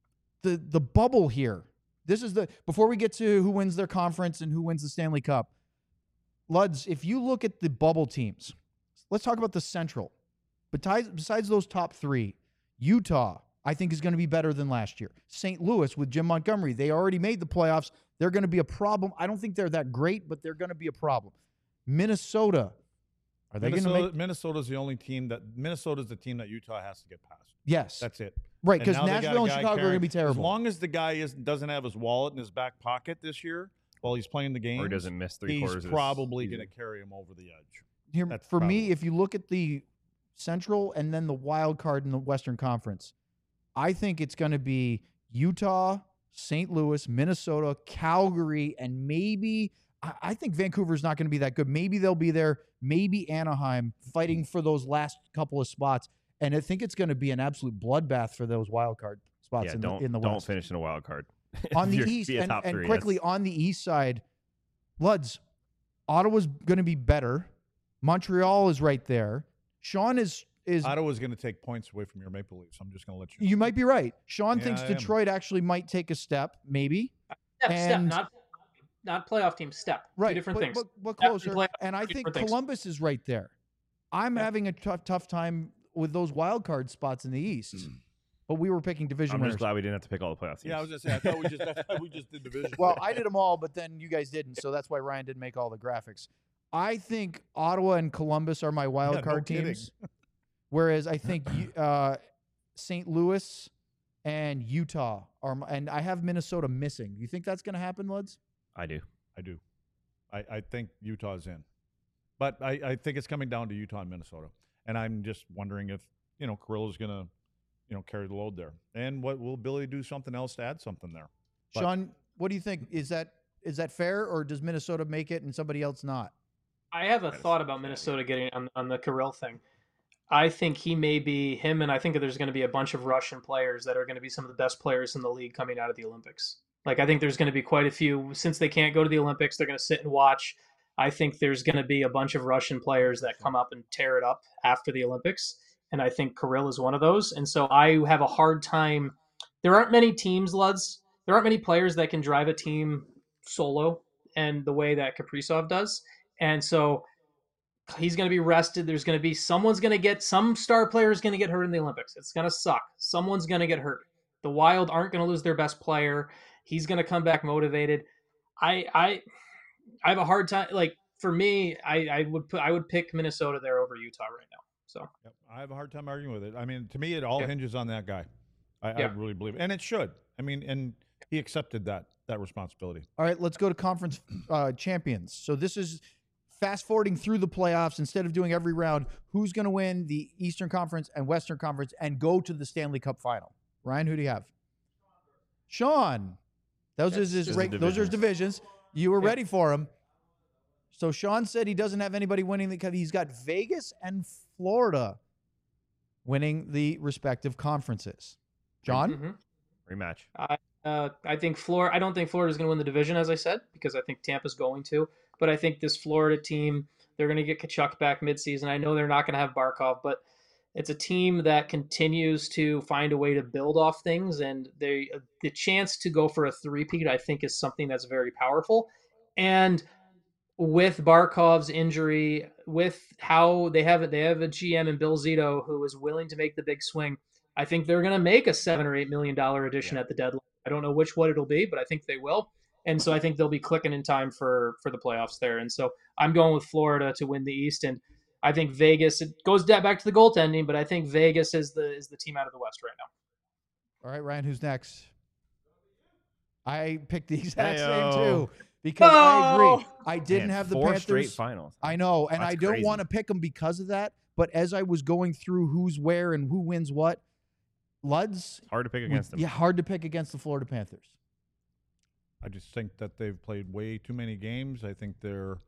[SPEAKER 2] the bubble here. This is before we get to who wins their conference and who wins the Stanley Cup. Luds, if you look at the bubble teams, let's talk about the Central. But besides those top three, Utah, I think, is going to be better than last year. St. Louis with Jim Montgomery, they already made the playoffs. They're going to be a problem. I don't think they're that great, but they're going to be a problem. Minnesota, are they going to make?
[SPEAKER 4] Minnesota's the only team Minnesota's the team that Utah has to get past.
[SPEAKER 2] Yes.
[SPEAKER 4] That's it.
[SPEAKER 2] Right, because
[SPEAKER 4] And now they got a
[SPEAKER 2] Nashville and
[SPEAKER 4] guy
[SPEAKER 2] Chicago are going to be terrible.
[SPEAKER 4] As long as the guy doesn't have his wallet in his back pocket this year while he's playing the game,
[SPEAKER 3] Or he doesn't miss three-quarters of
[SPEAKER 4] he's
[SPEAKER 3] his
[SPEAKER 4] probably
[SPEAKER 3] season.
[SPEAKER 4] going to carry him over the edge.
[SPEAKER 2] Here,
[SPEAKER 4] That's
[SPEAKER 2] for me,
[SPEAKER 4] probably-
[SPEAKER 2] if you look at the Central and then the wild card in the Western Conference, I think it's going to be Utah, St. Louis, Minnesota, Calgary, and maybe I think Vancouver's not going to be that good. Maybe they'll be there. Maybe Anaheim fighting for those last couple of spots. And I think it's going to be an absolute bloodbath for those wild card spots
[SPEAKER 3] Yeah,
[SPEAKER 2] in
[SPEAKER 3] don't
[SPEAKER 2] the
[SPEAKER 3] don't
[SPEAKER 2] West.
[SPEAKER 3] finish in a wild card.
[SPEAKER 2] On
[SPEAKER 3] If
[SPEAKER 2] the
[SPEAKER 3] you're-
[SPEAKER 2] East,
[SPEAKER 3] be a
[SPEAKER 2] and
[SPEAKER 3] top three,
[SPEAKER 2] quickly
[SPEAKER 3] that's-
[SPEAKER 2] on the East side, Luds, Ottawa's going to be better. Montreal is right there. Sean is
[SPEAKER 4] Ottawa's going to take points away from your Maple Leafs. I'm just going to let you know.
[SPEAKER 2] you might be right. Sean
[SPEAKER 4] Yeah,
[SPEAKER 2] thinks
[SPEAKER 4] I am.
[SPEAKER 2] Detroit actually might take a step, maybe.
[SPEAKER 1] Step,
[SPEAKER 2] And-
[SPEAKER 1] not playoff team. Step.
[SPEAKER 2] Right,
[SPEAKER 1] Two different things.
[SPEAKER 2] but
[SPEAKER 1] Step and
[SPEAKER 2] closer.
[SPEAKER 1] playoff,
[SPEAKER 2] And I
[SPEAKER 1] two
[SPEAKER 2] think
[SPEAKER 1] different things.
[SPEAKER 2] Columbus is right there. I'm
[SPEAKER 1] Yeah.
[SPEAKER 2] having a tough time with those wild card spots in the East. But we were picking division
[SPEAKER 3] I'm
[SPEAKER 2] winners.
[SPEAKER 3] just glad we didn't have to pick all the playoff teams.
[SPEAKER 4] Yeah, I was going to say, I thought we just did division.
[SPEAKER 2] Well, I did them all, but then you guys didn't, so that's why Ryan didn't make all the graphics. I think Ottawa and Columbus are my wild
[SPEAKER 4] Yeah, no
[SPEAKER 2] card
[SPEAKER 4] kidding.
[SPEAKER 2] teams, whereas I think St. Louis and Utah are, and I have Minnesota missing. You think that's going to happen, Luds?
[SPEAKER 3] I do.
[SPEAKER 4] I do. I think Utah's in. But I think it's coming down to Utah and Minnesota. And I'm just wondering if, Kirill is going to, carry the load there. And what will Billy do something else to add something there? But-
[SPEAKER 2] Sean, what do you think? Is that fair, or does Minnesota make it and somebody else not?
[SPEAKER 1] I have a thought about Minnesota getting on the Kirill thing. I think he may be him, and I think that there's going to be a bunch of Russian players that are going to be some of the best players in the league coming out of the Olympics. Like, I think there's going to be quite a few. Since they can't go to the Olympics, they're going to sit and watch. I think there's going to be a bunch of Russian players that come up and tear it up after the Olympics, and I think Kirill is one of those. And so I have a hard time. There aren't many teams, Luds. There aren't many players that can drive a team solo and the way that Kaprizov does. And so he's going to be rested. There's going to be some star player is going to get hurt in the Olympics. It's going to suck. Someone's going to get hurt. The Wild aren't going to lose their best player. He's going to come back motivated. I have a hard time. Like, for me, I would pick Minnesota there over Utah right now. So
[SPEAKER 4] Yep, I have a hard time arguing with it. I mean, to me, it all
[SPEAKER 1] Yeah.
[SPEAKER 4] hinges on that guy. I
[SPEAKER 1] Yeah.
[SPEAKER 4] really believe it. And it should. I mean, and he accepted that responsibility.
[SPEAKER 2] All right, let's go to conference champions. So this is fast forwarding through the playoffs. Instead of doing every round, who's going to win the Eastern Conference and Western Conference and go to the Stanley Cup final? Ryan, who do you have? Sean. Those
[SPEAKER 1] That's
[SPEAKER 2] are his
[SPEAKER 3] just the
[SPEAKER 2] those are his divisions. You were
[SPEAKER 1] Yeah.
[SPEAKER 2] ready for him. So Sean said he doesn't have anybody winning the cup. He's got Vegas and Florida winning the respective conferences. John?
[SPEAKER 1] Mhm.
[SPEAKER 3] Rematch.
[SPEAKER 1] I think Florida. I don't think Florida's going to win the division, as I said, because I think Tampa's going to. But I think this Florida team, they're going to get Kachuk back midseason. I know they're not going to have Barkov, but it's a team that continues to find a way to build off things, and the chance to go for a three-peat, I think, is something that's very powerful. And with Barkov's injury, with how they have a GM in Bill Zito who is willing to make the big swing, I think they're going to make a $7 or $8 million addition at the deadline. I don't know what it'll be, but I think they will. And so I think they'll be clicking in time for the playoffs there. And so I'm going with Florida to win the East. And I think Vegas, it goes back to the goaltending, but I think Vegas is the team out of the West right now.
[SPEAKER 2] All right, Ryan, who's next? I picked the exact same
[SPEAKER 3] Heyo.
[SPEAKER 2] too. because I
[SPEAKER 1] No!
[SPEAKER 2] agree. I didn't
[SPEAKER 3] Man,
[SPEAKER 2] have the
[SPEAKER 3] 4 straight
[SPEAKER 2] Panthers.
[SPEAKER 3] finals.
[SPEAKER 2] I know, and
[SPEAKER 3] That's
[SPEAKER 2] I don't
[SPEAKER 3] crazy.
[SPEAKER 2] want to pick them because of that. But as I was going through who's where and who wins what, Luds,
[SPEAKER 3] Hard to pick against them.
[SPEAKER 2] yeah, hard to pick against the Florida Panthers.
[SPEAKER 4] I just think that they've played way too many games. I think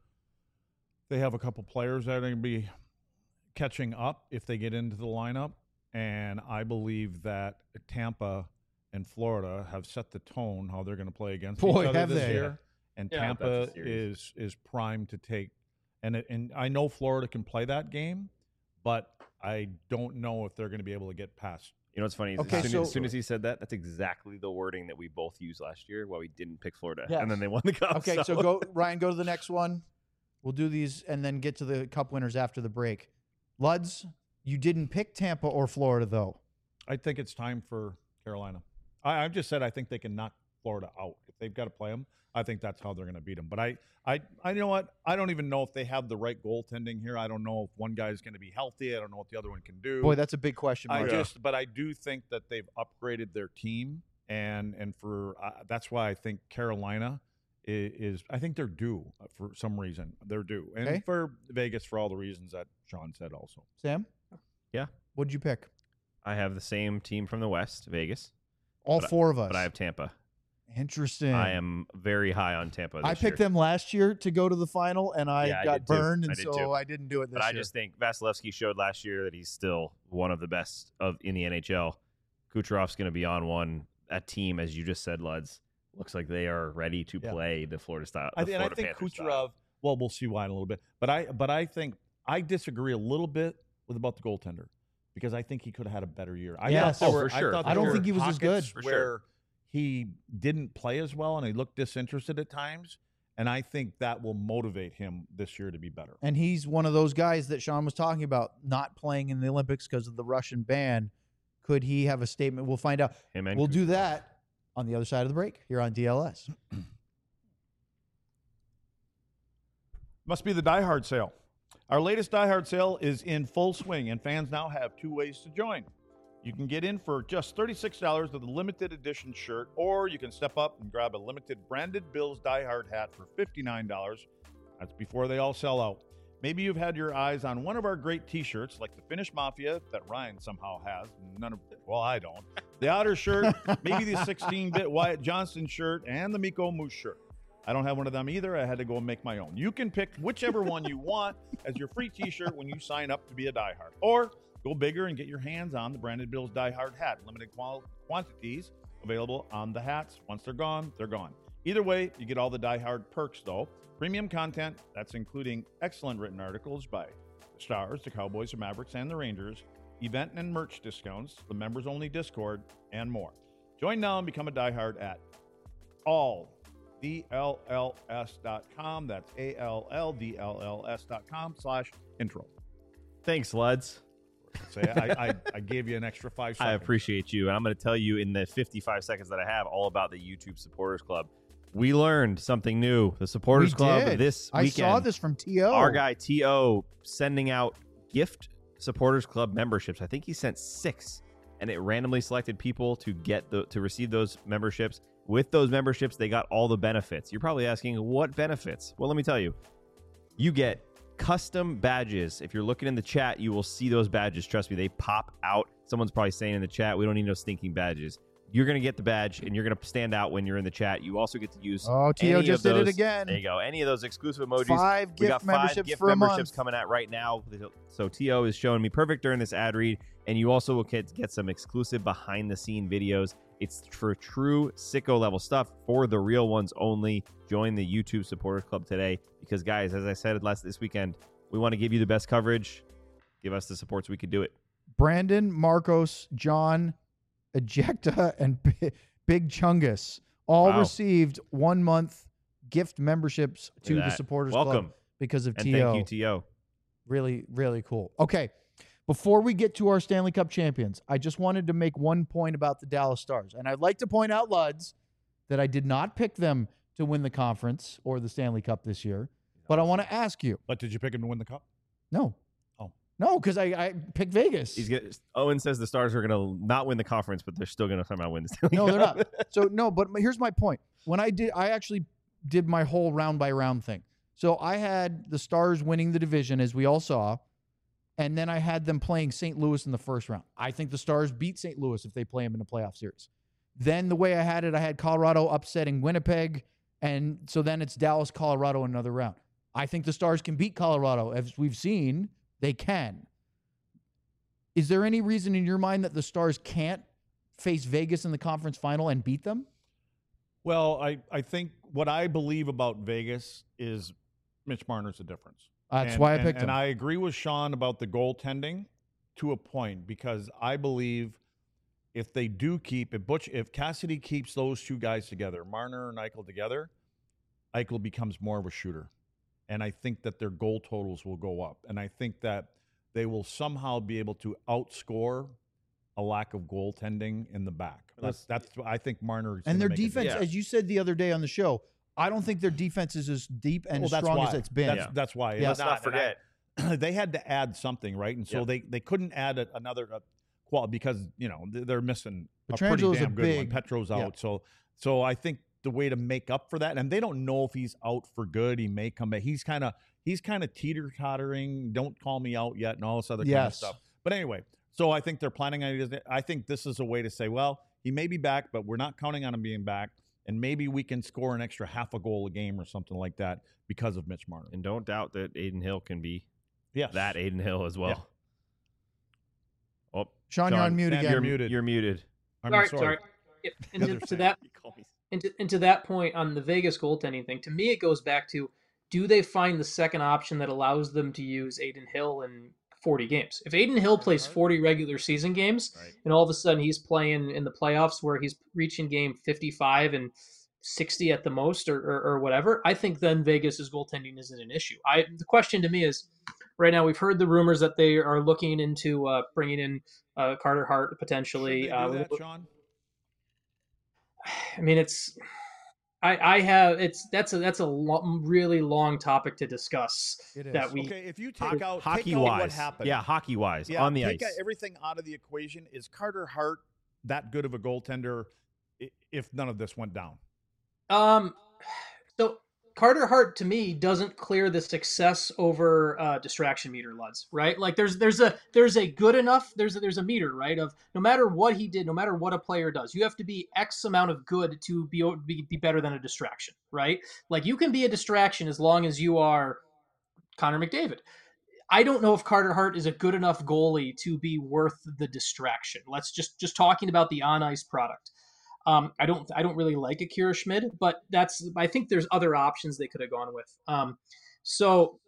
[SPEAKER 4] they have a couple players that are going to be catching up if they get into the lineup, and I believe that Tampa and Florida have set the tone how they're going to play against
[SPEAKER 2] Boy,
[SPEAKER 4] each other
[SPEAKER 2] have
[SPEAKER 4] this
[SPEAKER 2] they.
[SPEAKER 4] year. And
[SPEAKER 1] Yeah,
[SPEAKER 4] Tampa
[SPEAKER 3] that's a series.
[SPEAKER 4] is primed to take, and I know Florida can play that game, but I don't know if they're going to be able to get past.
[SPEAKER 3] You know what's funny? Is
[SPEAKER 2] Okay,
[SPEAKER 3] as soon as he said that, that's exactly the wording that we both used last year while we didn't pick Florida.
[SPEAKER 2] Yes.
[SPEAKER 3] And then they won the cup.
[SPEAKER 2] Okay, so go, Ryan, go to the next one. We'll do these and then get to the cup winners after the break. Luds, you didn't pick Tampa or Florida, though.
[SPEAKER 4] I think it's time for Carolina. I've just said I think they can knock Florida out. If they've got to play them, I think that's how they're going to beat them. But I you know what? I don't even know if they have the right goaltending here. I don't know if one guy is going to be healthy. I don't know what the other one can do.
[SPEAKER 2] Boy, that's a big question mark.
[SPEAKER 4] But I do think that they've upgraded their team, and for that's why I think Carolina is. I think they're due for some reason. They're due, and
[SPEAKER 2] Okay.
[SPEAKER 4] for Vegas for all the reasons that Sean said. Also,
[SPEAKER 2] Sam?
[SPEAKER 3] Yeah.
[SPEAKER 2] What'd you pick?
[SPEAKER 3] I have the same team from the West, Vegas,
[SPEAKER 2] All
[SPEAKER 3] But-
[SPEAKER 2] four of us.
[SPEAKER 3] but I have Tampa.
[SPEAKER 2] Interesting.
[SPEAKER 3] I am very high on Tampa this
[SPEAKER 2] I picked
[SPEAKER 3] year.
[SPEAKER 2] them last year to go to the final, and I
[SPEAKER 3] Yeah, I
[SPEAKER 2] got
[SPEAKER 3] did too.
[SPEAKER 2] burned,
[SPEAKER 3] I
[SPEAKER 2] and
[SPEAKER 3] did
[SPEAKER 2] so
[SPEAKER 3] too.
[SPEAKER 2] I didn't do it this
[SPEAKER 3] But I
[SPEAKER 2] year.
[SPEAKER 3] just think Vasilevsky showed last year that he's still one of the best in the NHL. Kucherov's going to be on one. That team, as you just said, Luds, looks like they are ready to
[SPEAKER 4] Yeah.
[SPEAKER 3] play the Florida style.
[SPEAKER 4] I
[SPEAKER 3] the
[SPEAKER 4] think
[SPEAKER 3] Florida Panthers
[SPEAKER 4] Kucherov.
[SPEAKER 3] style.
[SPEAKER 4] Well, we'll see why in a little bit. But I think I disagree a little bit about the goaltender because I think he could have had a better year.
[SPEAKER 2] Yes.
[SPEAKER 3] Oh, for sure.
[SPEAKER 4] thought
[SPEAKER 2] I
[SPEAKER 4] there
[SPEAKER 2] don't
[SPEAKER 4] were
[SPEAKER 2] think he was as good.
[SPEAKER 4] pockets
[SPEAKER 3] For sure.
[SPEAKER 4] where he didn't play as well and he looked disinterested at times. And I think that will motivate him this year to be better.
[SPEAKER 2] And he's one of those guys that Sean was talking about not playing in the Olympics because of the Russian ban. Could he have a statement? We'll find out.
[SPEAKER 3] Him and
[SPEAKER 2] We'll do
[SPEAKER 3] Kucherov.
[SPEAKER 2] that on the other side of the break here on DLS.
[SPEAKER 4] Must be the Die Hard sale. Our latest Die Hard sale is in full swing, and fans now have two ways to join. You can get in for just $36 with a limited edition shirt, or you can step up and grab a limited branded Bills Die Hard hat for $59. That's before they all sell out. Maybe you've had your eyes on one of our great t-shirts, like the Finnish Mafia that Ryan somehow has. Well, I don't. The Otter shirt, maybe the 16-bit Wyatt Johnson shirt, and the Miko Moose shirt. I don't have one of them either. I had to go and make my own. You can pick whichever one you want as your free t-shirt when you sign up to be a Die Hard. Or go bigger and get your hands on the branded Bills Die Hard hat. Limited quantities available on the hats. Once they're gone, they're gone. Either way, you get all the Die Hard perks, though. Premium content, that's including excellent written articles by the Stars, the Cowboys, the Mavericks, and the Rangers, event and merch discounts, the members-only Discord, and more. Join now and become a Die Hard at alldlls.com. That's alldlls.com/intro.
[SPEAKER 3] Thanks, Luds.
[SPEAKER 4] So I gave you an extra 5 seconds.
[SPEAKER 3] I appreciate you. And I'm going to tell you in the 55 seconds that I have all about the YouTube Supporters Club. We learned something new. The Supporters
[SPEAKER 2] We
[SPEAKER 3] Club
[SPEAKER 2] did.
[SPEAKER 3] this
[SPEAKER 2] I
[SPEAKER 3] weekend.
[SPEAKER 2] saw this from T.O.
[SPEAKER 3] Our guy T.O. sending out gift Supporters Club memberships. I think he sent 6, and it randomly selected people to receive those memberships. With those memberships, they got all the benefits. You're probably asking, what benefits? Well, let me tell you. You get custom badges. If you're looking in the chat, you will see those badges. Trust me, they pop out. Someone's probably saying in the chat, we don't need no stinking badges. You're going to get the badge, and you're going to stand out when you're in the chat. You also get to use
[SPEAKER 2] Oh, T.O.
[SPEAKER 3] any
[SPEAKER 2] just
[SPEAKER 3] of
[SPEAKER 2] did it
[SPEAKER 3] those-
[SPEAKER 2] again.
[SPEAKER 3] There you go. Any of those exclusive emojis.
[SPEAKER 2] 5
[SPEAKER 3] We
[SPEAKER 2] gift
[SPEAKER 3] got 5
[SPEAKER 2] memberships
[SPEAKER 3] gift
[SPEAKER 2] for a
[SPEAKER 3] memberships
[SPEAKER 2] month.
[SPEAKER 3] coming out right now. So T.O. is showing me perfect during this ad read, and you also will get some exclusive behind-the-scene videos. It's for true sicko level stuff for the real ones only. Join the YouTube Supporters Club today because, guys, as I said this weekend, we want to give you the best coverage. Give us the support so we can do it.
[SPEAKER 2] Brandon, Marcos, John, Ejecta, and Big Chungus all
[SPEAKER 3] Wow.
[SPEAKER 2] received 1 month gift memberships to
[SPEAKER 3] Look at
[SPEAKER 2] the
[SPEAKER 3] that.
[SPEAKER 2] Supporters
[SPEAKER 3] Welcome.
[SPEAKER 2] Club because of
[SPEAKER 3] And
[SPEAKER 2] T.O.
[SPEAKER 3] thank you, T.O.
[SPEAKER 2] Really, really cool. Okay. Before we get to our Stanley Cup champions, I just wanted to make one point about the Dallas Stars. And I'd like to point out, Luds, that I did not pick them to win the conference or the Stanley Cup this year. But I want to ask you.
[SPEAKER 4] But did you pick him to win the cup?
[SPEAKER 2] No.
[SPEAKER 4] Oh.
[SPEAKER 2] No, because I picked Vegas.
[SPEAKER 3] Owen says the Stars are going to not win the conference, but they're still going to somehow win the Stanley
[SPEAKER 2] No,
[SPEAKER 3] Cup.
[SPEAKER 2] they're not. So, no, but here's my point. When I actually did my whole round by round thing. So I had the Stars winning the division, as we all saw, and then I had them playing St. Louis in the first round. I think the Stars beat St. Louis if they play them in a playoff series. Then the way I had Colorado upsetting Winnipeg, and so then it's Dallas, Colorado in another round. I think the Stars can beat Colorado. As we've seen, they can. Is there any reason in your mind that the Stars can't face Vegas in the conference final and beat them?
[SPEAKER 4] Well, I think what I believe about Vegas is Mitch Marner's the difference.
[SPEAKER 2] That's why I picked him.
[SPEAKER 4] And I agree with Sean about the goaltending to a point, because I believe if they do keep if Cassidy keeps those two guys together, Marner and Eichel together, Eichel becomes more of a shooter. And I think that their goal totals will go up. And I think that they will somehow be able to outscore a lack of goaltending in the back. That's I think Marner is
[SPEAKER 2] and their
[SPEAKER 4] make a
[SPEAKER 2] defense,
[SPEAKER 3] difference.
[SPEAKER 2] as you said the other day on the show, I don't think their defense is as deep and as strong as it's been.
[SPEAKER 4] That's why.
[SPEAKER 2] Yeah.
[SPEAKER 3] Let's not forget.
[SPEAKER 4] They had to add something, right? And so they couldn't add another quality because, they're missing a pretty
[SPEAKER 2] Petrangelo is a
[SPEAKER 4] damn good
[SPEAKER 2] big-
[SPEAKER 4] one. Petro's
[SPEAKER 2] yeah.
[SPEAKER 4] out. So I think the way to make up for that, and they don't know if he's out for good. He may come back. He's kind of teeter-tottering. Don't call me out yet and all this other kind of
[SPEAKER 2] Yes.
[SPEAKER 4] stuff. But anyway, so I think they're planning on it. I think this is a way to say, well, he may be back, but we're not counting on him being back. And maybe we can score an extra half a goal a game or something like that because of Mitch Marner.
[SPEAKER 3] And don't doubt that Aiden Hill can be
[SPEAKER 4] Yes.
[SPEAKER 3] that Aiden Hill as well. Oh,
[SPEAKER 2] Sean, you're on mute
[SPEAKER 4] Sam,
[SPEAKER 2] again.
[SPEAKER 4] you're muted.
[SPEAKER 3] You're muted.
[SPEAKER 1] Sorry. Yeah, and
[SPEAKER 4] Other
[SPEAKER 1] to
[SPEAKER 4] side.
[SPEAKER 1] that and to that point on the Vegas goaltending thing, to me it goes back to, do they find the second option that allows them to use Aiden Hill in 40 games? If Aiden Hill plays 40 regular season games,
[SPEAKER 3] Right.
[SPEAKER 1] and all of a sudden he's playing in the playoffs where he's reaching game 55 and 60 at the most or whatever, I think then Vegas's goaltending isn't an issue. The question to me is, right now we've heard the rumors that they are looking into bringing in Carter Hart potentially.
[SPEAKER 4] Should they do that, Sean?
[SPEAKER 1] I mean, that's a really long topic to discuss.
[SPEAKER 2] It is.
[SPEAKER 1] That we
[SPEAKER 4] Okay, if you take out
[SPEAKER 3] Hockey
[SPEAKER 4] what
[SPEAKER 3] wise.
[SPEAKER 4] happened.
[SPEAKER 3] Yeah, hockey wise.
[SPEAKER 4] Yeah,
[SPEAKER 3] on the
[SPEAKER 4] take
[SPEAKER 3] ice.
[SPEAKER 4] everything out of the equation. Is Carter Hart that good of a goaltender if none of this went down?
[SPEAKER 1] So Carter Hart to me doesn't clear the success over distraction meter, Luds, right? Like there's a good enough, there's a meter, right? Of no matter what he did, no matter what a player does, you have to be X amount of good to be better than a distraction, right? Like you can be a distraction as long as you are Connor McDavid. I don't know if Carter Hart is a good enough goalie to be worth the distraction. Let's just talking about the on ice product. I don't really like Akira Schmid, but I think there's other options they could have gone with. So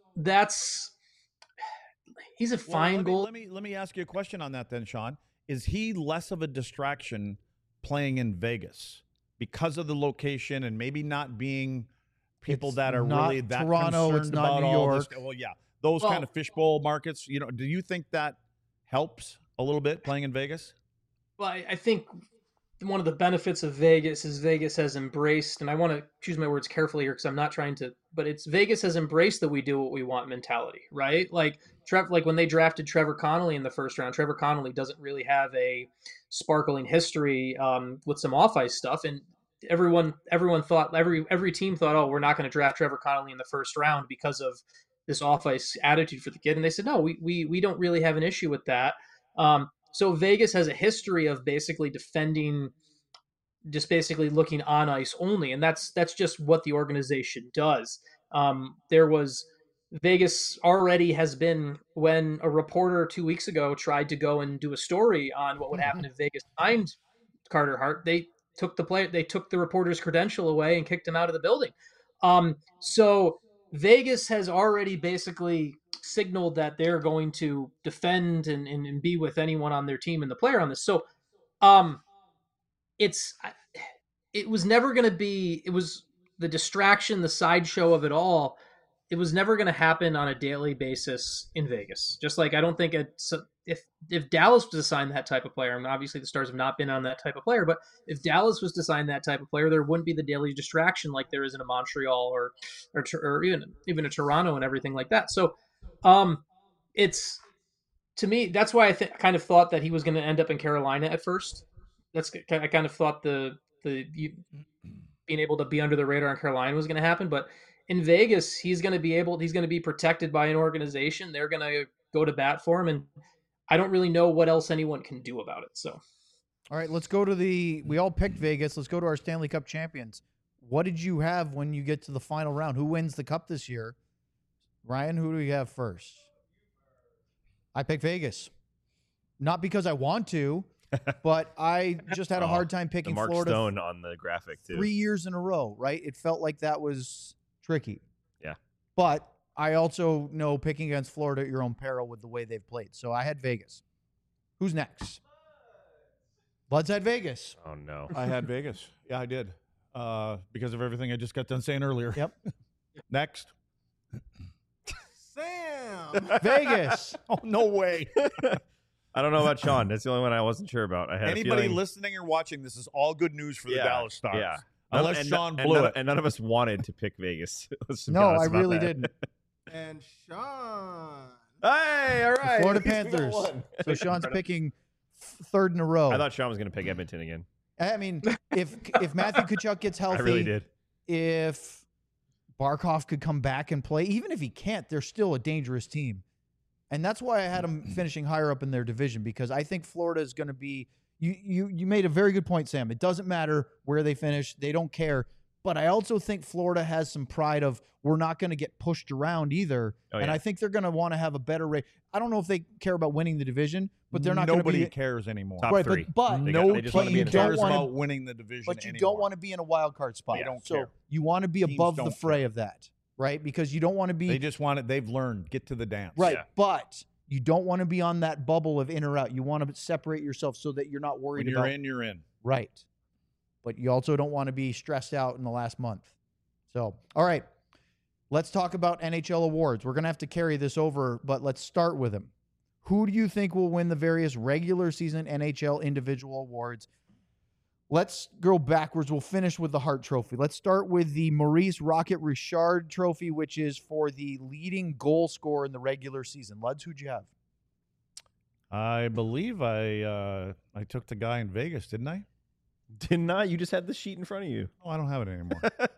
[SPEAKER 1] he's a fine goal.
[SPEAKER 4] Let me ask you a question on that then, Sean. Is he less of a distraction playing in Vegas because of the location and maybe not being people
[SPEAKER 2] It's
[SPEAKER 4] that are
[SPEAKER 2] not
[SPEAKER 4] really that
[SPEAKER 2] Toronto,
[SPEAKER 4] concerned
[SPEAKER 2] it's not
[SPEAKER 4] about
[SPEAKER 2] New
[SPEAKER 4] all
[SPEAKER 2] York.
[SPEAKER 4] this? Well, yeah, those kind of fishbowl markets. Do you think that helps a little bit playing in Vegas?
[SPEAKER 1] Well, I think one of the benefits of Vegas is Vegas has embraced, and I want to choose my words carefully here because I'm not trying to, but it's Vegas has embraced the we do what we want mentality, right? Like when they drafted Trevor Connolly in the first round, Trevor Connolly doesn't really have a sparkling history with some off ice stuff, and everyone thought every team thought, oh, we're not going to draft Trevor Connolly in the first round because of this off ice attitude for the kid, and they said no, we don't really have an issue with that. So Vegas has a history of basically defending, just basically looking on ice only, and that's just what the organization does. Vegas already has been, when a reporter 2 weeks ago tried to go and do a story on what would happen if Vegas signed Carter Hart, they took the reporter's credential away and kicked him out of the building. So Vegas has already basically signaled that they're going to defend and be with anyone on their team and the player on this. So it was never going to be, it was the distraction, the sideshow of it all. It was never going to happen on a daily basis in Vegas. Just like I don't think if Dallas was to sign that type of player, and obviously the Stars have not been on that type of player, but if Dallas was to sign that type of player, there wouldn't be the daily distraction like there is in a Montreal or even a Toronto and everything like that. So it's, to me, that's why I kind of thought that he was going to end up in Carolina at first. I kind of thought being being able to be under the radar in Carolina was going to happen. But in Vegas, he's going to be protected by an organization. They're going to go to bat for him, and I don't really know what else anyone can do about it. So,
[SPEAKER 2] All right, let's go to we all picked Vegas. Let's go to our Stanley Cup champions. What did you have when you get to the final round? Who wins the cup this year? Ryan, who do we have first? I picked Vegas. Not because I want to, but I just had a hard time
[SPEAKER 3] The
[SPEAKER 2] picking
[SPEAKER 3] Mark
[SPEAKER 2] Florida
[SPEAKER 3] Stone on the graphic too.
[SPEAKER 2] 3 years in a row, right? It felt like that was tricky.
[SPEAKER 3] Yeah.
[SPEAKER 2] But I also know picking against Florida at your own peril with the way they've played. So I had Vegas. Who's next? Bud's had Vegas.
[SPEAKER 3] Oh no.
[SPEAKER 4] I had Vegas. Yeah, I did. Because of everything I just got done saying earlier.
[SPEAKER 2] Yep.
[SPEAKER 4] Next.
[SPEAKER 5] Sam.
[SPEAKER 2] Vegas.
[SPEAKER 4] Oh, no way.
[SPEAKER 3] I don't know about Sean. That's the only one I wasn't sure about. I had
[SPEAKER 4] Anybody
[SPEAKER 3] a feeling,
[SPEAKER 4] listening or watching, this is all good news for the Dallas Stars.
[SPEAKER 3] Yeah.
[SPEAKER 4] Unless
[SPEAKER 3] And
[SPEAKER 4] Sean
[SPEAKER 3] and
[SPEAKER 4] blew
[SPEAKER 3] none,
[SPEAKER 4] it.
[SPEAKER 3] and none of us wanted to pick Vegas. Let's be
[SPEAKER 2] No,
[SPEAKER 3] honest
[SPEAKER 2] I
[SPEAKER 3] about
[SPEAKER 2] really
[SPEAKER 3] that.
[SPEAKER 2] didn't.
[SPEAKER 5] And Sean.
[SPEAKER 3] Hey, all right.
[SPEAKER 2] Florida
[SPEAKER 3] At least we got
[SPEAKER 2] Panthers.
[SPEAKER 3] one.
[SPEAKER 2] So Sean's picking third in a row.
[SPEAKER 3] I thought Sean was going to pick Edmonton again.
[SPEAKER 2] I mean, if Matthew Tkachuk gets healthy,
[SPEAKER 3] I really did.
[SPEAKER 2] if Barkov could come back and play, even if he can't, they're still a dangerous team. And that's why I had them finishing higher up in their division, because I think Florida is going to be you made a very good point, Sam. It doesn't matter where they finish. They don't care. But I also think Florida has some pride of we're not going to get pushed around either.
[SPEAKER 3] Oh,
[SPEAKER 2] And
[SPEAKER 3] yeah.
[SPEAKER 2] I think they're going to want to have a better rate. I don't know if they care about winning the division, but they're not going to
[SPEAKER 4] Nobody
[SPEAKER 2] be
[SPEAKER 4] cares anymore.
[SPEAKER 3] Top
[SPEAKER 2] right.
[SPEAKER 3] three.
[SPEAKER 2] But
[SPEAKER 3] They
[SPEAKER 2] no,
[SPEAKER 3] just
[SPEAKER 2] but
[SPEAKER 3] wanna be
[SPEAKER 2] you
[SPEAKER 3] in the
[SPEAKER 2] don't
[SPEAKER 4] cares
[SPEAKER 2] want to
[SPEAKER 4] about winning the division
[SPEAKER 2] But you
[SPEAKER 4] anymore.
[SPEAKER 2] don't want to be in a wild card spot.
[SPEAKER 4] They don't
[SPEAKER 2] so
[SPEAKER 4] care.
[SPEAKER 2] you want to be
[SPEAKER 4] Teams
[SPEAKER 2] above the
[SPEAKER 4] don't
[SPEAKER 2] fray
[SPEAKER 4] care.
[SPEAKER 2] of that, right? Because you don't want to be
[SPEAKER 4] They just want it. They've learned. Get to the dance.
[SPEAKER 2] right,
[SPEAKER 3] Yeah.
[SPEAKER 2] but you don't want to be on that bubble of in or out. You want to separate yourself so that you're not worried
[SPEAKER 4] When you're
[SPEAKER 2] about
[SPEAKER 4] in, you're in.
[SPEAKER 2] right. But you also don't want to be stressed out in the last month. So, all right. Let's talk about NHL awards. We're going to have to carry this over, but let's start with them. Who do you think will win the various regular season NHL individual awards? Let's go backwards. We'll finish with the Hart Trophy. Let's start with the Maurice Rocket Richard Trophy, which is for the leading goal scorer in the regular season. Luds, who'd you have?
[SPEAKER 4] I believe I took the guy in Vegas, didn't I?
[SPEAKER 3] Did not. You just had the sheet in front of you.
[SPEAKER 4] Oh, I don't have it anymore.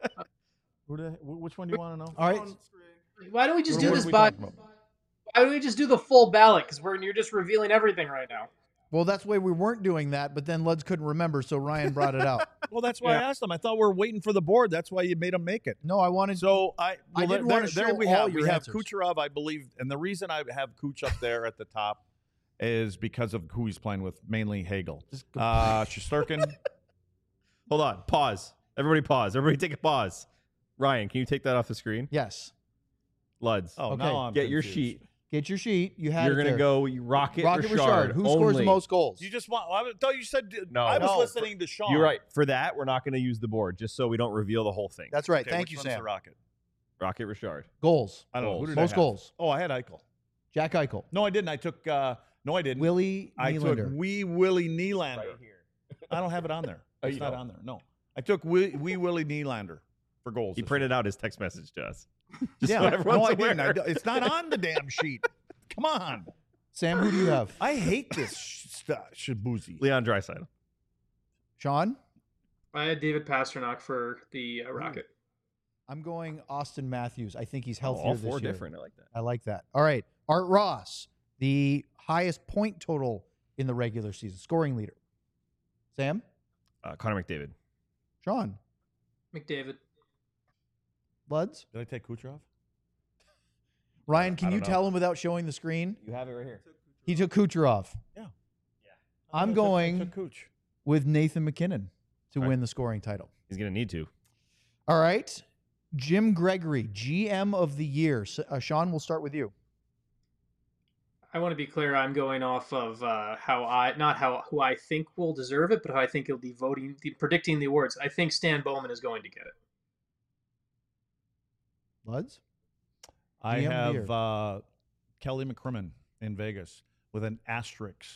[SPEAKER 4] Which one do you want to know?
[SPEAKER 2] All right.
[SPEAKER 1] why don't we just
[SPEAKER 4] What
[SPEAKER 1] do
[SPEAKER 4] are
[SPEAKER 1] this
[SPEAKER 4] we
[SPEAKER 1] by?
[SPEAKER 4] talking about?
[SPEAKER 1] Why don't we just do the full ballot? Because you're just revealing everything right now.
[SPEAKER 2] Well, that's why we weren't doing that, but then Luds couldn't remember, so Ryan brought it out.
[SPEAKER 4] Well, that's why I asked them. I thought we were waiting for the board. That's why you made them make it.
[SPEAKER 2] No, I wanted
[SPEAKER 4] So well,
[SPEAKER 2] didn't
[SPEAKER 4] there,
[SPEAKER 2] wanna
[SPEAKER 4] there
[SPEAKER 2] show
[SPEAKER 4] we
[SPEAKER 2] all
[SPEAKER 4] have
[SPEAKER 2] your
[SPEAKER 4] we have
[SPEAKER 2] answers.
[SPEAKER 4] Kucherov, I believe, and the reason I have Kuch up there at the top is because of who he's playing with, mainly Hagel. Shesterkin.
[SPEAKER 3] Hold on. Pause. Everybody pause. Everybody take a pause. Ryan, can you take that off the screen?
[SPEAKER 2] yes.
[SPEAKER 3] Luds.
[SPEAKER 4] Oh,
[SPEAKER 2] Okay.
[SPEAKER 4] now I'm
[SPEAKER 3] Get your
[SPEAKER 4] confused.
[SPEAKER 3] sheet.
[SPEAKER 2] Get your sheet. You had
[SPEAKER 3] You're
[SPEAKER 2] it
[SPEAKER 3] going to
[SPEAKER 2] there.
[SPEAKER 3] go Rocket
[SPEAKER 2] Rocket
[SPEAKER 3] Richard.
[SPEAKER 2] Richard. Who scores the
[SPEAKER 3] only.
[SPEAKER 2] most goals?
[SPEAKER 4] You just want. I thought you said.
[SPEAKER 3] No.
[SPEAKER 4] I was
[SPEAKER 2] No.
[SPEAKER 4] listening to Sean.
[SPEAKER 3] You're right. For that, we're not going to use the board, just so we don't reveal the whole thing.
[SPEAKER 2] That's right.
[SPEAKER 4] Okay,
[SPEAKER 2] Thank
[SPEAKER 4] which
[SPEAKER 2] you,
[SPEAKER 4] one's
[SPEAKER 2] Sam.
[SPEAKER 4] The Rocket.
[SPEAKER 3] Rocket Richard.
[SPEAKER 2] Goals.
[SPEAKER 4] I don't know. Who did
[SPEAKER 2] Most
[SPEAKER 4] I have?
[SPEAKER 2] goals.
[SPEAKER 4] Oh, I had Eichel.
[SPEAKER 2] Jack Eichel.
[SPEAKER 4] No, I didn't. I took. No, I didn't.
[SPEAKER 2] Willie
[SPEAKER 4] I took
[SPEAKER 2] Nylander.
[SPEAKER 4] Willie Nylander.
[SPEAKER 3] Right here.
[SPEAKER 4] I don't have it on there.
[SPEAKER 3] Oh,
[SPEAKER 4] It's
[SPEAKER 3] you
[SPEAKER 4] not
[SPEAKER 3] don't?
[SPEAKER 4] on there. No, I took Willie Nylander for goals.
[SPEAKER 3] He
[SPEAKER 4] this
[SPEAKER 3] printed out his text message to us. Just
[SPEAKER 2] Yeah.
[SPEAKER 3] so everyone's
[SPEAKER 4] No, I
[SPEAKER 3] aware.
[SPEAKER 4] didn't. It's not on the damn sheet. Come on.
[SPEAKER 2] Sam, who do you have?
[SPEAKER 4] I hate this shabuzi.
[SPEAKER 3] Leon Draisaitl.
[SPEAKER 2] Sean?
[SPEAKER 1] I had David Pasternak for the Rocket.
[SPEAKER 2] I'm going Austin Matthews. I think he's
[SPEAKER 3] Oh,
[SPEAKER 2] healthier
[SPEAKER 3] all
[SPEAKER 2] this
[SPEAKER 3] four
[SPEAKER 2] year.
[SPEAKER 3] different. I like that.
[SPEAKER 2] I like that. All right. Art Ross, the highest point total in the regular season, scoring leader. Sam?
[SPEAKER 3] Connor McDavid.
[SPEAKER 2] Sean?
[SPEAKER 1] McDavid.
[SPEAKER 2] Luds?
[SPEAKER 4] Did I take Kucherov?
[SPEAKER 2] Ryan, can
[SPEAKER 3] I
[SPEAKER 2] you
[SPEAKER 3] don't
[SPEAKER 2] tell him without showing the screen?
[SPEAKER 3] You have it right here.
[SPEAKER 2] He took Kucherov.
[SPEAKER 4] Yeah.
[SPEAKER 2] I'm
[SPEAKER 4] I
[SPEAKER 2] going
[SPEAKER 4] took Kuch.
[SPEAKER 2] with Nathan McKinnon to
[SPEAKER 3] Right.
[SPEAKER 2] win the scoring title.
[SPEAKER 3] He's going to need to.
[SPEAKER 2] All right. Jim Gregory, GM of the year. Sean, we'll start with you.
[SPEAKER 1] I want to be clear. I'm going off of who I think will deserve it, but how I think he'll be predicting the awards. I think Stan Bowman is going to get it.
[SPEAKER 2] Luds?
[SPEAKER 4] I
[SPEAKER 2] GM of the
[SPEAKER 4] have Kelly McCrimmon in Vegas with an asterisk.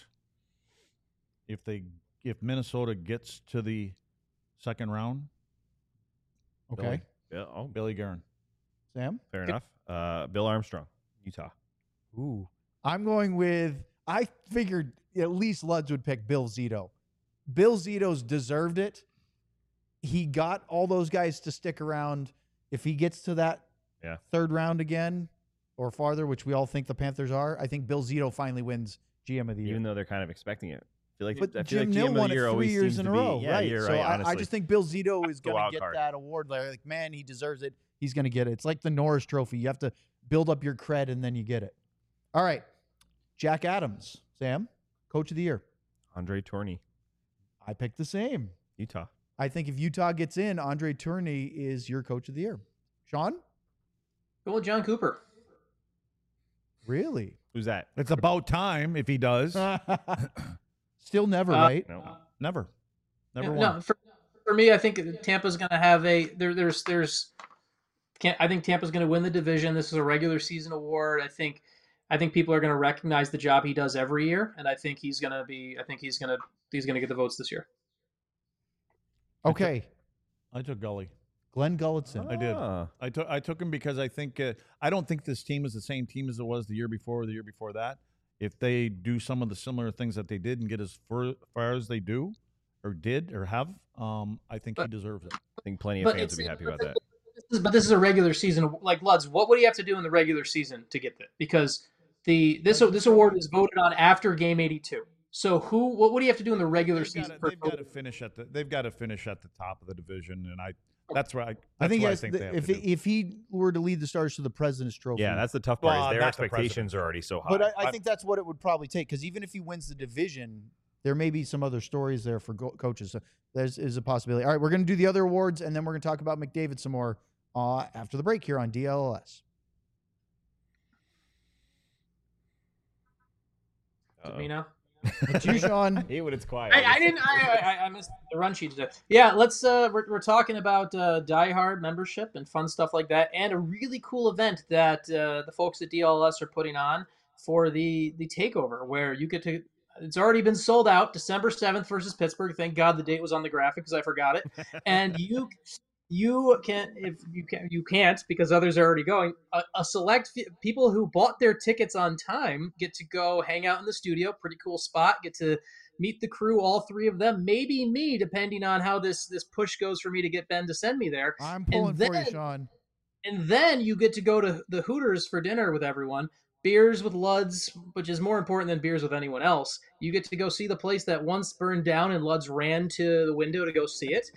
[SPEAKER 4] If Minnesota gets to the second round,
[SPEAKER 2] Okay.
[SPEAKER 3] Yeah. Oh,
[SPEAKER 4] Billy Guerin.
[SPEAKER 2] Sam?
[SPEAKER 3] fair enough. Bill Armstrong, Utah.
[SPEAKER 2] Ooh. I'm going with, I figured at least Luds would pick Bill Zito. Bill Zito's deserved it. he got all those guys to stick around. If he gets to that third round again or farther, which we all think the Panthers are, I think Bill Zito finally wins GM of the year.
[SPEAKER 3] Even though they're kind of expecting it. I feel
[SPEAKER 2] But
[SPEAKER 3] like
[SPEAKER 2] Jim
[SPEAKER 3] GM
[SPEAKER 2] Nill
[SPEAKER 3] of the
[SPEAKER 2] won it
[SPEAKER 3] year
[SPEAKER 2] 3
[SPEAKER 3] always
[SPEAKER 2] years
[SPEAKER 3] seems
[SPEAKER 2] in
[SPEAKER 3] to
[SPEAKER 2] a
[SPEAKER 3] be-
[SPEAKER 2] row,
[SPEAKER 3] Yeah,
[SPEAKER 2] right?
[SPEAKER 3] you're
[SPEAKER 2] So
[SPEAKER 3] right,
[SPEAKER 2] I
[SPEAKER 3] honestly.
[SPEAKER 2] just think Bill Zito is
[SPEAKER 3] the
[SPEAKER 2] going to
[SPEAKER 3] wild
[SPEAKER 2] get
[SPEAKER 3] card.
[SPEAKER 2] that award. Like, man, he deserves it. He's going to get it. It's like the Norris Trophy. You have to build up your cred and then you get it. All right. Jack Adams, Sam, Coach of the Year.
[SPEAKER 3] Andre Tourney,
[SPEAKER 2] I picked the same.
[SPEAKER 3] Utah.
[SPEAKER 2] I think if Utah gets in, Andre Tourney is your Coach of the Year. Sean?
[SPEAKER 1] Go with John Cooper.
[SPEAKER 2] Really?
[SPEAKER 3] Who's that?
[SPEAKER 4] It's about time if he does.
[SPEAKER 2] Still never, right?
[SPEAKER 3] No.
[SPEAKER 4] Never
[SPEAKER 1] Yeah,
[SPEAKER 4] won.
[SPEAKER 1] no, for me, I think Tampa's going to have I think Tampa's going to win the division. This is a regular season award. I think people are going to recognize the job he does every year, and I think he's going to get the votes this year.
[SPEAKER 2] Okay.
[SPEAKER 4] I took Gully.
[SPEAKER 2] Glenn Gulletson.
[SPEAKER 4] I did.
[SPEAKER 3] Ah.
[SPEAKER 4] I took him because I think I don't think this team is the same team as it was the year before or the year before that. If they do some of the similar things that they did and get as far as they do or did or have, I think he deserves it.
[SPEAKER 3] I think plenty of
[SPEAKER 1] But
[SPEAKER 3] fans would be happy about that.
[SPEAKER 1] But this is a regular season. Like Luds, what would he have to do in the regular season to get that? Because this award is voted on after Game 82. So what would he have to do in the regular season?
[SPEAKER 4] They've got to finish at the top of the division, and that's why
[SPEAKER 2] I think,
[SPEAKER 4] what
[SPEAKER 2] yes,
[SPEAKER 4] I think they have
[SPEAKER 2] if
[SPEAKER 4] to do.
[SPEAKER 2] if he were to lead the Stars to the President's Trophy.
[SPEAKER 3] Yeah, that's the tough part.
[SPEAKER 4] Well,
[SPEAKER 3] Is their
[SPEAKER 4] not the
[SPEAKER 3] expectations are already so high.
[SPEAKER 2] But I think that's what it would probably take, because even if he wins the division, there may be some other stories there for coaches. So there's a possibility. All right, we're going to do the other awards, and then we're going to talk about McDavid some more after the break here on DLS.
[SPEAKER 1] Is it me now?
[SPEAKER 2] It's you, Sean.
[SPEAKER 3] I hate when it's quiet.
[SPEAKER 1] I missed the run sheet today. Yeah, let's we're talking about Die Hard membership and fun stuff like that, and a really cool event that the folks at DLS are putting on for the takeover, where you get to. It's already been sold out, December 7th versus Pittsburgh. Thank God the date was on the graphic because I forgot it. And you can't because others are already going. A select people who bought their tickets on time get to go hang out in the studio. Pretty cool spot. Get to meet the crew, all three of them, maybe me, depending on how this push goes for me to get Ben to send me there.
[SPEAKER 2] I'm pulling for you, Sean.
[SPEAKER 1] And then you get to go to the Hooters for dinner with everyone. Beers with Luds, which is more important than beers with anyone else. You get to go see the place that once burned down and Luds ran to the window to go see it.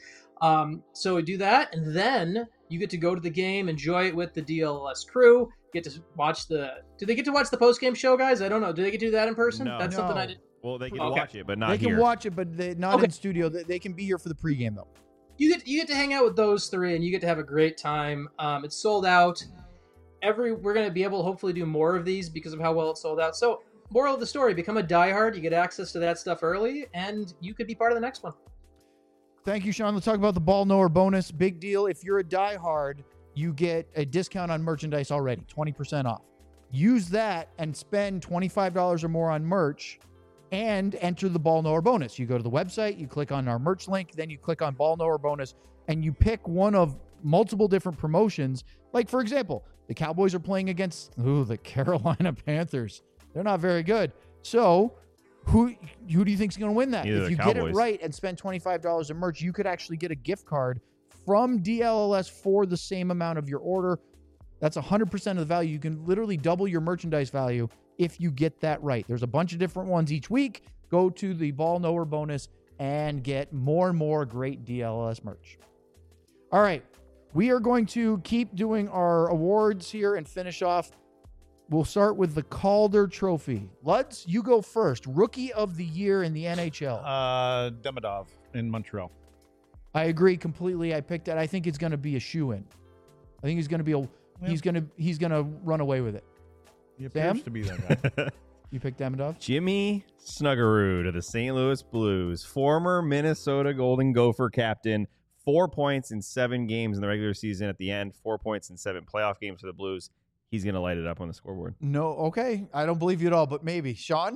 [SPEAKER 1] So we do that, and then you get to go to the game, enjoy it with the DLS crew. Get to watch do they get to watch the post-game show, guys? I don't know. Do they get to do that in person?
[SPEAKER 3] No.
[SPEAKER 1] That's something I did.
[SPEAKER 3] Well, they can
[SPEAKER 1] Okay.
[SPEAKER 3] watch it, but not
[SPEAKER 2] They
[SPEAKER 3] here.
[SPEAKER 2] can watch it, but not
[SPEAKER 1] Okay.
[SPEAKER 2] in studio. They can be here for the pregame, though.
[SPEAKER 1] You get to hang out with those three, and you get to have a great time. It's sold out. We're going to be able to hopefully do more of these because of how well it's sold out. So, moral of the story: become a diehard. You get access to that stuff early, and you could be part of the next one.
[SPEAKER 2] Thank you, Sean. Let's talk about the ball knower bonus. Big deal. If you're a diehard, you get a discount on merchandise already, 20% off. Use that and spend $25 or more on merch and enter the ball knower bonus. You go to the website, you click on our merch link, then you click on ball knower bonus, and you pick one of multiple different promotions. Like, for example, the Cowboys are playing against the Carolina Panthers. They're not very good. So who do you think is going to win that?
[SPEAKER 3] Either
[SPEAKER 2] If
[SPEAKER 3] the
[SPEAKER 2] you get it
[SPEAKER 3] Cowboys.
[SPEAKER 2] right and spend $25 in merch, you could actually get a gift card from DLLS for the same amount of your order. That's 100% of the value. You can literally double your merchandise value if you get that right. There's a bunch of different ones each week. Go to the ball knower bonus and get more and more great DLLS merch. All right. We are going to keep doing our awards here and finish off. We'll start with the Calder Trophy. Luds, you go first. Rookie of the Year in the NHL.
[SPEAKER 4] Demidov in Montreal.
[SPEAKER 2] I agree completely. I picked that. I think it's going to be a shoe-in. I think he's going to be he's going to run away with it.
[SPEAKER 4] He appears
[SPEAKER 2] Sam?
[SPEAKER 4] to be that guy.
[SPEAKER 2] You picked Demidov?
[SPEAKER 3] Jimmy Snuggerud of the St. Louis Blues, former Minnesota Golden Gopher captain, 4 points in 7 games in the regular season. At the end, 4 points in 7 playoff games for the Blues. He's going to light it up on the scoreboard.
[SPEAKER 2] No, okay. I don't believe you at all, but maybe. Sean?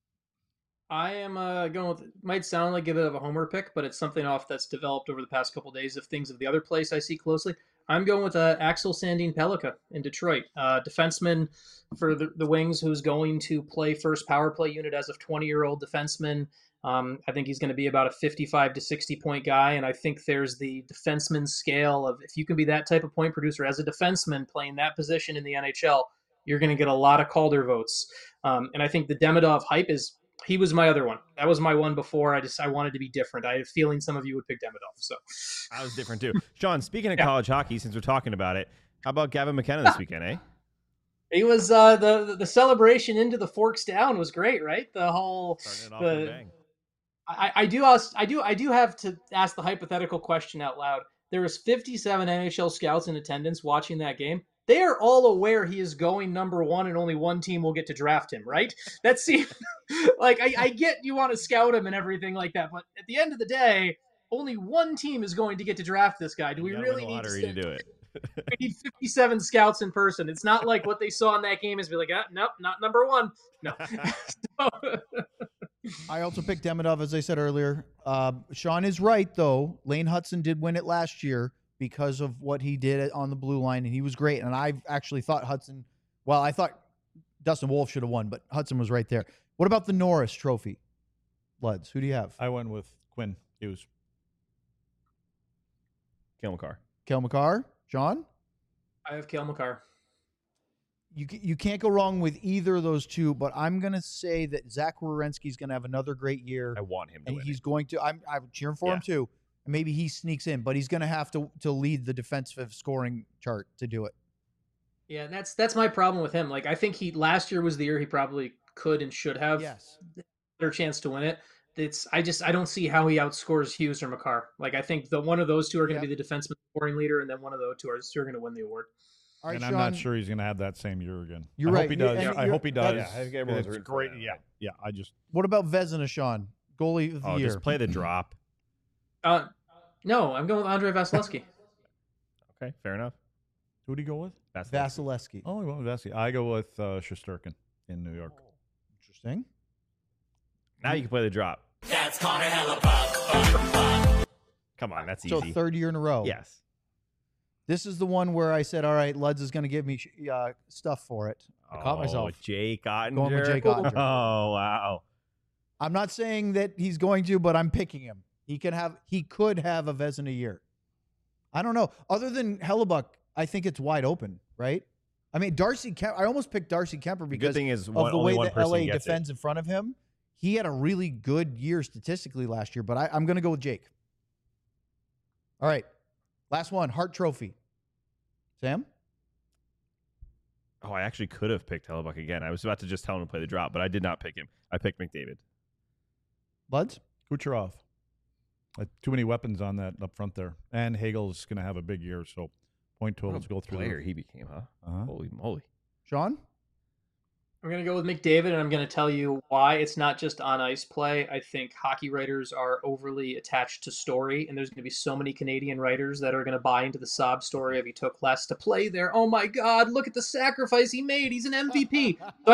[SPEAKER 1] I am going with, might sound like a bit of a homer pick, but it's something that's developed over the past couple of days of things of the other place I see closely. I'm going with Axel Sandin Pellikka in Detroit, defenseman for the Wings, who's going to play first power play unit as a 20-year-old defenseman. I think he's going to be about a 55 to 60 point guy. And I think there's the defenseman scale of if you can be that type of point producer as a defenseman playing that position in the NHL, you're going to get a lot of Calder votes. And I think the Demidov hype he was my other one. That was my one before. I wanted to be different. I had a feeling some of you would pick Demidov. So
[SPEAKER 3] I was different too. Sean, speaking of college hockey, since we're talking about it, how about Gavin McKenna this weekend, eh?
[SPEAKER 1] He was the celebration into the forks down was great, right? The whole
[SPEAKER 3] Starting it off with a bang.
[SPEAKER 1] I do have to ask the hypothetical question out loud. There was 57 NHL scouts in attendance watching that game. They are all aware he is going number one and only one team will get to draft him, right? That seems like I get you want to scout him and everything like that, but at the end of the day, only one team is going to get to draft this guy. Do we really need
[SPEAKER 3] to do it?
[SPEAKER 1] We need 57 scouts in person. It's not like what they saw in that game is be like, nope, not number one. No.
[SPEAKER 2] I also picked Demidov, as I said earlier. Sean is right, though. Lane Hudson did win it last year because of what he did on the blue line, and he was great. And I actually thought Hudson – well, I thought Dustin Wolf should have won, but Hudson was right there. What about the Norris Trophy? Luds, who do you have?
[SPEAKER 4] I went with Quinn Hughes.
[SPEAKER 3] Cale Makar.
[SPEAKER 2] Cale Makar? Sean?
[SPEAKER 1] I have Cale Makar.
[SPEAKER 2] You can't go wrong with either of those two, but I'm going to say that Zach Werenski's going to have another great year.
[SPEAKER 3] I want him to
[SPEAKER 2] and
[SPEAKER 3] win
[SPEAKER 2] he's
[SPEAKER 3] it.
[SPEAKER 2] going to. I'm cheering for him too. Maybe he sneaks in, but he's going to have to lead the defensive scoring chart to do it.
[SPEAKER 1] Yeah, that's my problem with him. Like I think last year was the year he probably could and should have better chance to win it. I don't see how he outscores Hughes or Makar. Like I think one of those two are going to be the defenseman scoring leader, and then one of those two are going to win the award.
[SPEAKER 2] All right,
[SPEAKER 4] and
[SPEAKER 2] Sean,
[SPEAKER 4] I'm not sure he's going to have that same year again.
[SPEAKER 2] You're
[SPEAKER 4] I
[SPEAKER 2] right.
[SPEAKER 4] Hope he does. I hope he does.
[SPEAKER 3] Yeah, I think everyone's
[SPEAKER 4] it's
[SPEAKER 3] rooting for
[SPEAKER 4] great.
[SPEAKER 3] that.
[SPEAKER 4] Yeah. I just.
[SPEAKER 2] What about Vezina, Sean? Goalie of the year.
[SPEAKER 3] Just play the drop.
[SPEAKER 1] No, I'm going with Andrei Vasilevsky.
[SPEAKER 3] Okay, fair enough.
[SPEAKER 4] Who do you go with?
[SPEAKER 2] Vasilevsky.
[SPEAKER 4] Oh, you went with Vasilevsky. I go with Shesterkin in New York.
[SPEAKER 2] Interesting.
[SPEAKER 3] Now you can play the drop. That's Connor Hellebuyck. Come on, that's easy.
[SPEAKER 2] So third year in a row.
[SPEAKER 3] Yes.
[SPEAKER 2] This is the one where I said, all right, Luds is going to give me stuff for it. I caught myself.
[SPEAKER 3] Jake Ottinger.
[SPEAKER 2] Going with Jake Ottinger.
[SPEAKER 3] Oh, wow.
[SPEAKER 2] I'm not saying that he's going to, but I'm picking him. He could have a Vezina year. I don't know. Other than Hellebuyck, I think it's wide open, right? I mean, Darcy Kemper, I almost picked Darcy Kemper because of the way that LA defends in front of him. He had a really good year statistically last year, but I'm going to go with Jake. All right. Last one, Hart Trophy. Sam?
[SPEAKER 3] Oh, I actually could have picked Hellebuyck again. I was about to just tell him to play the drop, but I did not pick him. I picked McDavid.
[SPEAKER 2] Luds?
[SPEAKER 4] Kucherov. Too many weapons on that up front there. And Hagel's going to have a big year, so point totals go through.
[SPEAKER 3] Player he became, huh? Holy moly.
[SPEAKER 2] Sean?
[SPEAKER 1] I'm going to go with McDavid, and I'm going to tell you why. It's not just on-ice play. I think hockey writers are overly attached to story, and there's going to be so many Canadian writers that are going to buy into the sob story of he took less to play there. Oh, my God, look at the sacrifice he made. He's an MVP. So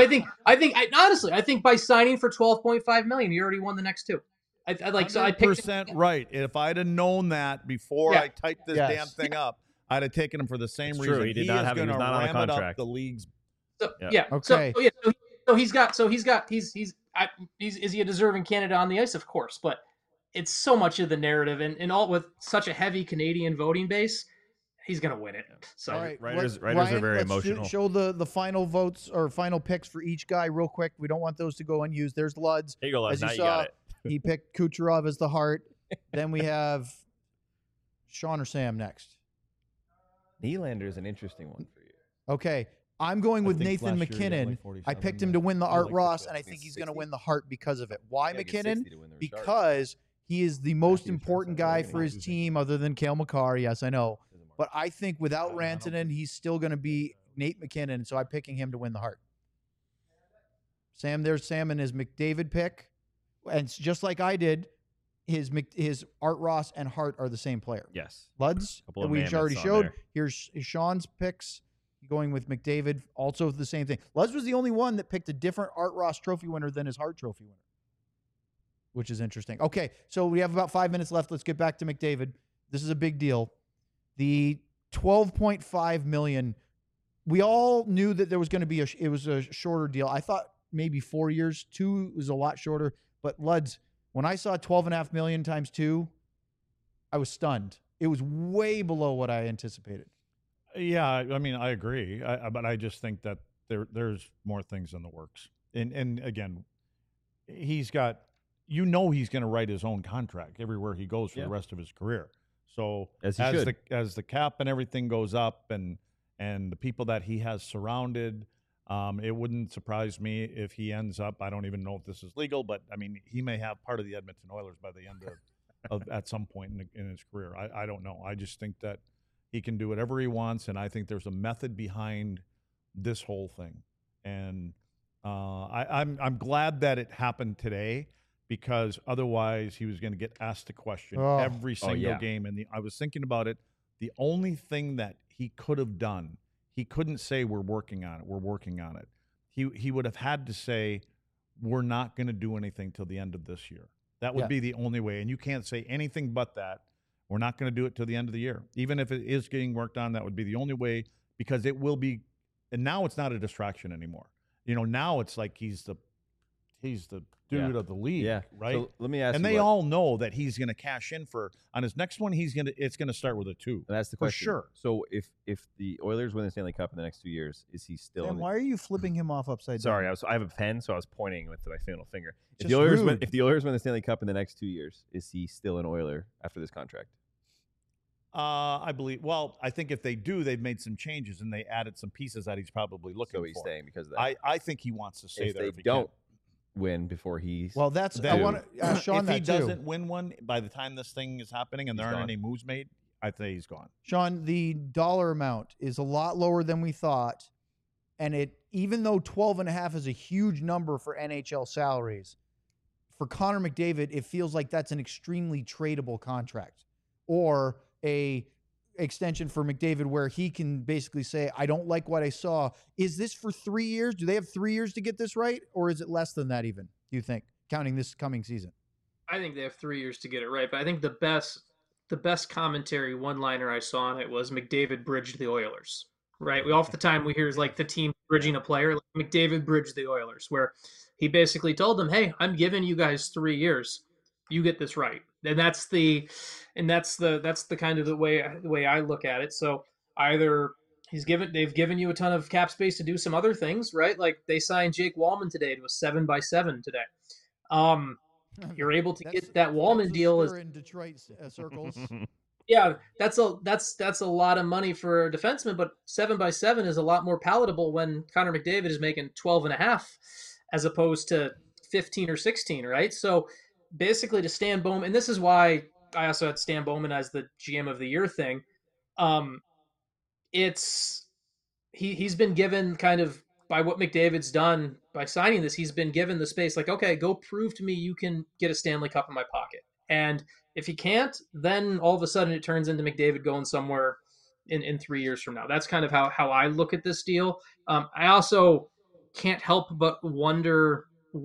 [SPEAKER 1] I think by signing for $12.5 million, you already won the next two. I picked
[SPEAKER 4] % right. If I'd have known that before I typed this damn thing up, I'd have taken him for the same reason.
[SPEAKER 3] True. He was not on a contract.
[SPEAKER 4] The league's.
[SPEAKER 2] Okay.
[SPEAKER 1] Is he a deserving candidate on the ice? Of course, but it's so much of the narrative, and all with such a heavy Canadian voting base, he's going to win it. So
[SPEAKER 2] all right,
[SPEAKER 3] writers
[SPEAKER 2] Ryan,
[SPEAKER 3] are very
[SPEAKER 2] let's
[SPEAKER 3] emotional.
[SPEAKER 2] Show the final votes or final picks for each guy real quick. We don't want those to go unused. There's Luds.
[SPEAKER 3] Here you go, Luds.
[SPEAKER 2] As you
[SPEAKER 3] Now
[SPEAKER 2] saw,
[SPEAKER 3] you got it.
[SPEAKER 2] He picked Kucherov as the Hart. Then we have Sean or Sam next.
[SPEAKER 3] Nylander is an interesting one for you.
[SPEAKER 2] Okay. I'm going with Nathan McKinnon. I picked him to win the Art Ross, and I think he's going to win the Hart because of it. Why McKinnon? Because he is the most important guy for his team other than Cale Makar. Yes, I know. But I think without Rantanen, he's still going to be Nate McKinnon, so I'm picking him to win the Hart. There's Sam and his McDavid pick. And just like I did, his Art Ross and Hart are the same player.
[SPEAKER 3] Yes.
[SPEAKER 2] Luds, that we already showed. Here's Sean's picks. Going with McDavid, also the same thing. Luz was the only one that picked a different Art Ross trophy winner than his Hart trophy winner, which is interesting. Okay, so we have about 5 minutes left. Let's get back to McDavid. This is a big deal. The $12.5 million, we all knew that there was going to be it was a shorter deal. I thought maybe 4 years. 2 was a lot shorter. But Luds, When I saw 12.5 million times 2, I was stunned. It was way below what I anticipated.
[SPEAKER 4] Yeah, I mean, I agree, but I just think that there's more things in the works. And again, he's got, he's going to write his own contract everywhere he goes for the rest of his career. So
[SPEAKER 3] As he should.
[SPEAKER 4] as the cap and everything goes up, and the people that he has surrounded, it wouldn't surprise me if he ends up. I don't even know if this is legal, but I mean, he may have part of the Edmonton Oilers by the end of at some point in his career. I don't know. I just think that he can do whatever he wants, and I think there's a method behind this whole thing. And I'm glad that it happened today, because otherwise he was going to get asked the question every single game. And I was thinking about it. The only thing that he could have done, he couldn't say we're working on it. We're working on it. He would have had to say we're not going to do anything till the end of this year. That would be the only way. And you can't say anything but that. We're not going to do it till the end of the year. Even if it is getting worked on, that would be the only way, because it will be. And now it's not a distraction anymore. Now it's like he's the dude of the league, right?
[SPEAKER 3] So let me ask
[SPEAKER 4] and
[SPEAKER 3] you.
[SPEAKER 4] they all know that he's going to cash in on his next one. It's going to start with a 2.
[SPEAKER 3] And that's the
[SPEAKER 4] for
[SPEAKER 3] question.
[SPEAKER 4] sure.
[SPEAKER 3] So if the Oilers win the Stanley Cup in the next 2 years, is he still?
[SPEAKER 2] Sam, why are you flipping him off upside
[SPEAKER 3] Sorry,
[SPEAKER 2] down?
[SPEAKER 3] I have a pen, so I was pointing with my middle finger. If
[SPEAKER 2] Just
[SPEAKER 3] the Oilers
[SPEAKER 2] rude.
[SPEAKER 3] if the Oilers win the Stanley Cup in the next 2 years, is he still an Oiler after this contract?
[SPEAKER 4] I believe. Well, I think if they do, they've made some changes and they added some pieces that he's probably looking
[SPEAKER 3] So he's
[SPEAKER 4] for.
[SPEAKER 3] staying because of that.
[SPEAKER 4] I think he wants to stay
[SPEAKER 3] if
[SPEAKER 4] there.
[SPEAKER 3] they
[SPEAKER 4] if he
[SPEAKER 3] don't
[SPEAKER 4] can.
[SPEAKER 3] win before he's
[SPEAKER 2] Well, that's I
[SPEAKER 4] Then-
[SPEAKER 2] want to Sean
[SPEAKER 4] if
[SPEAKER 2] that
[SPEAKER 4] he
[SPEAKER 2] too.
[SPEAKER 4] doesn't win one by the time this thing is happening and there
[SPEAKER 3] He's
[SPEAKER 4] aren't
[SPEAKER 3] gone.
[SPEAKER 4] any moves made, I think he's gone.
[SPEAKER 2] Sean, the dollar amount is a lot lower than we thought, and even though 12.5 is a huge number for NHL salaries, for Connor McDavid, it feels like that's an extremely tradable contract, or a extension for McDavid where he can basically say, I don't like what I saw. Is this for 3 years? Do they have 3 years to get this right? Or is it less than that even, do you think, counting this coming season?
[SPEAKER 1] I think they have 3 years to get it right, but I think the best commentary one-liner I saw on it was McDavid bridged the Oilers, right? Off the time we hear is like the team bridging a player, like McDavid bridged the Oilers, where he basically told them, hey, I'm giving you guys 3 years. You get this right. And that's the kind of the way I look at it. So either they've given you a ton of cap space to do some other things, right? Like they signed Jake Wallman today to a 7x7 today. You're able to get that Wallman deal
[SPEAKER 2] is in Detroit circles.
[SPEAKER 1] Yeah, that's a lot of money for a defenseman, but 7x7 is a lot more palatable when Connor McDavid is making 12.5 as opposed to 15 or 16, right? So basically to Stan Bowman, and this is why I also had Stan Bowman as the GM of the year thing. He's been given kind of, by what McDavid's done by signing this, he's been given the space like, okay, go prove to me you can get a Stanley Cup in my pocket. And if he can't, then all of a sudden it turns into McDavid going somewhere in 3 years from now. That's kind of how I look at this deal. I also can't help but wonder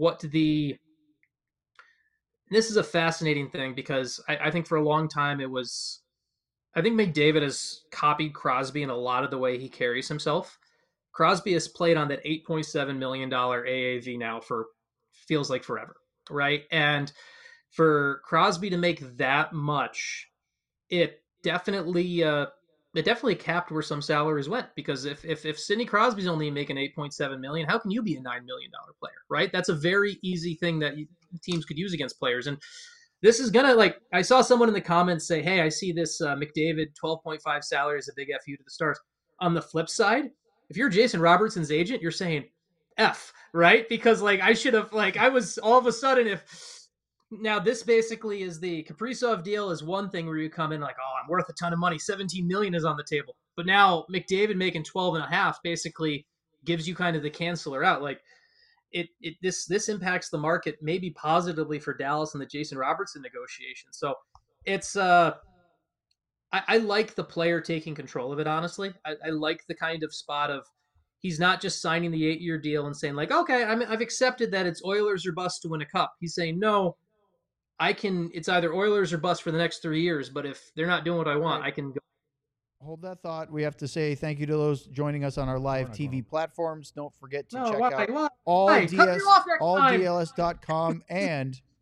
[SPEAKER 1] this is a fascinating thing, because I think for a long time I think McDavid has copied Crosby in a lot of the way he carries himself. Crosby has played on that $8.7 million AAV now for feels like forever, right? And for Crosby to make that much, it definitely capped where some salaries went, because if Sidney Crosby's only making $8.7 million, how can you be a $9 million player, right? That's a very easy thing that teams could use against players. And this is gonna, like, I saw someone in the comments say, hey, I see this McDavid 12.5 salary as a big FU to the Stars. On the flip side, if you're Jason Robertson's agent, you're saying F, right? Because I was all of a sudden, now this basically is the Kaprizov deal is one thing where you come in like, oh, I'm worth a ton of money. 17 million is on the table. But now McDavid making 12.5 basically gives you kind of the canceller out. Like this impacts the market maybe positively for Dallas and the Jason Robertson negotiation. So it's I like the player taking control of it, honestly. I like the kind of spot of he's not just signing the 8-year deal and saying like, okay, I've accepted that it's Oilers or bust to win a cup. He's saying, no, it's either Oilers or bust for the next 3 years, but if they're not doing what I want, I can go.
[SPEAKER 2] Hold that thought. We have to say thank you to those joining us on our live TV platforms. Don't forget to check out
[SPEAKER 1] Cut me off next time.
[SPEAKER 2] alldls.com and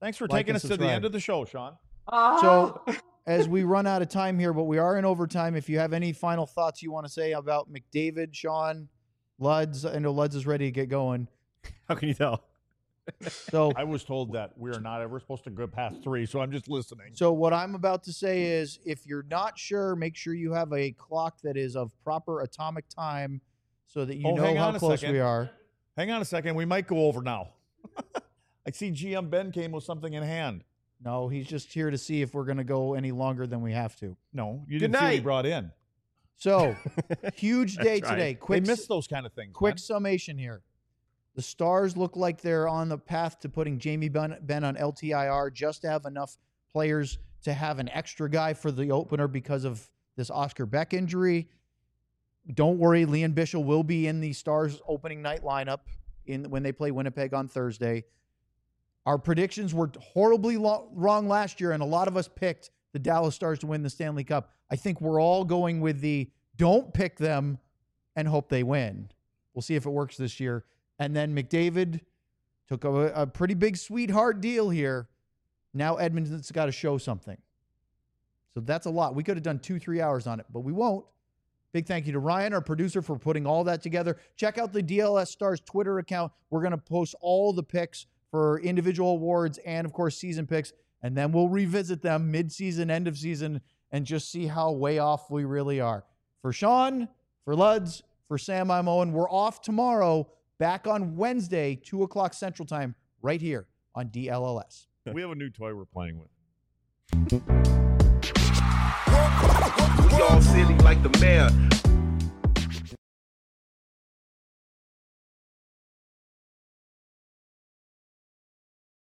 [SPEAKER 4] Thanks for
[SPEAKER 2] like,
[SPEAKER 4] taking
[SPEAKER 2] and
[SPEAKER 4] us to the
[SPEAKER 2] subscribe.
[SPEAKER 4] end of the show, Sean.
[SPEAKER 2] So as we run out of time here, but we are in overtime, if you have any final thoughts you want to say about McDavid, Sean, Luds, I know Luds is ready to get going.
[SPEAKER 3] How can you tell?
[SPEAKER 2] So
[SPEAKER 4] I was told that we are not ever supposed to go past 3, so I'm just listening.
[SPEAKER 2] So what I'm about to say is, if you're not sure, make sure you have a clock that is of proper atomic time so that you know
[SPEAKER 4] hang
[SPEAKER 2] how
[SPEAKER 4] on a
[SPEAKER 2] close
[SPEAKER 4] second.
[SPEAKER 2] we are.
[SPEAKER 4] Hang on a second. We might go over now. I see GM Ben came with something in hand.
[SPEAKER 2] No, he's just here to see if we're going to go any longer than we have to.
[SPEAKER 4] No, you
[SPEAKER 3] Good
[SPEAKER 4] didn't see what he
[SPEAKER 3] night.
[SPEAKER 4] brought in.
[SPEAKER 2] So, huge day
[SPEAKER 3] That's right.
[SPEAKER 2] today.
[SPEAKER 4] They
[SPEAKER 2] Quick,
[SPEAKER 4] miss those kind of things.
[SPEAKER 2] quick
[SPEAKER 4] man.
[SPEAKER 2] summation here. The Stars look like they're on the path to putting Jamie Benn on LTIR just to have enough players to have an extra guy for the opener because of this Oscar Beck injury. Don't worry, Leon Bischel will be in the Stars opening night lineup when they play Winnipeg on Thursday. Our predictions were horribly wrong last year, and a lot of us picked the Dallas Stars to win the Stanley Cup. I think we're all going with the don't pick them and hope they win. We'll see if it works this year. And then McDavid took a pretty big sweetheart deal here. Now Edmonton's got to show something. So that's a lot. We could have done 2-3 hours on it, but we won't. Big thank you to Ryan, our producer, for putting all that together. Check out the DLS Stars Twitter account. We're going to post all the picks for individual awards and, of course, season picks. And then we'll revisit them mid-season, end of season, and just see how way off we really are. For Sean, for Luds, for Sam, I'm Owen. We're off tomorrow, back on Wednesday, 2 o'clock Central Time, right here on DLLS.
[SPEAKER 4] We have a new toy we're playing with.
[SPEAKER 6] We all silly like the mayor.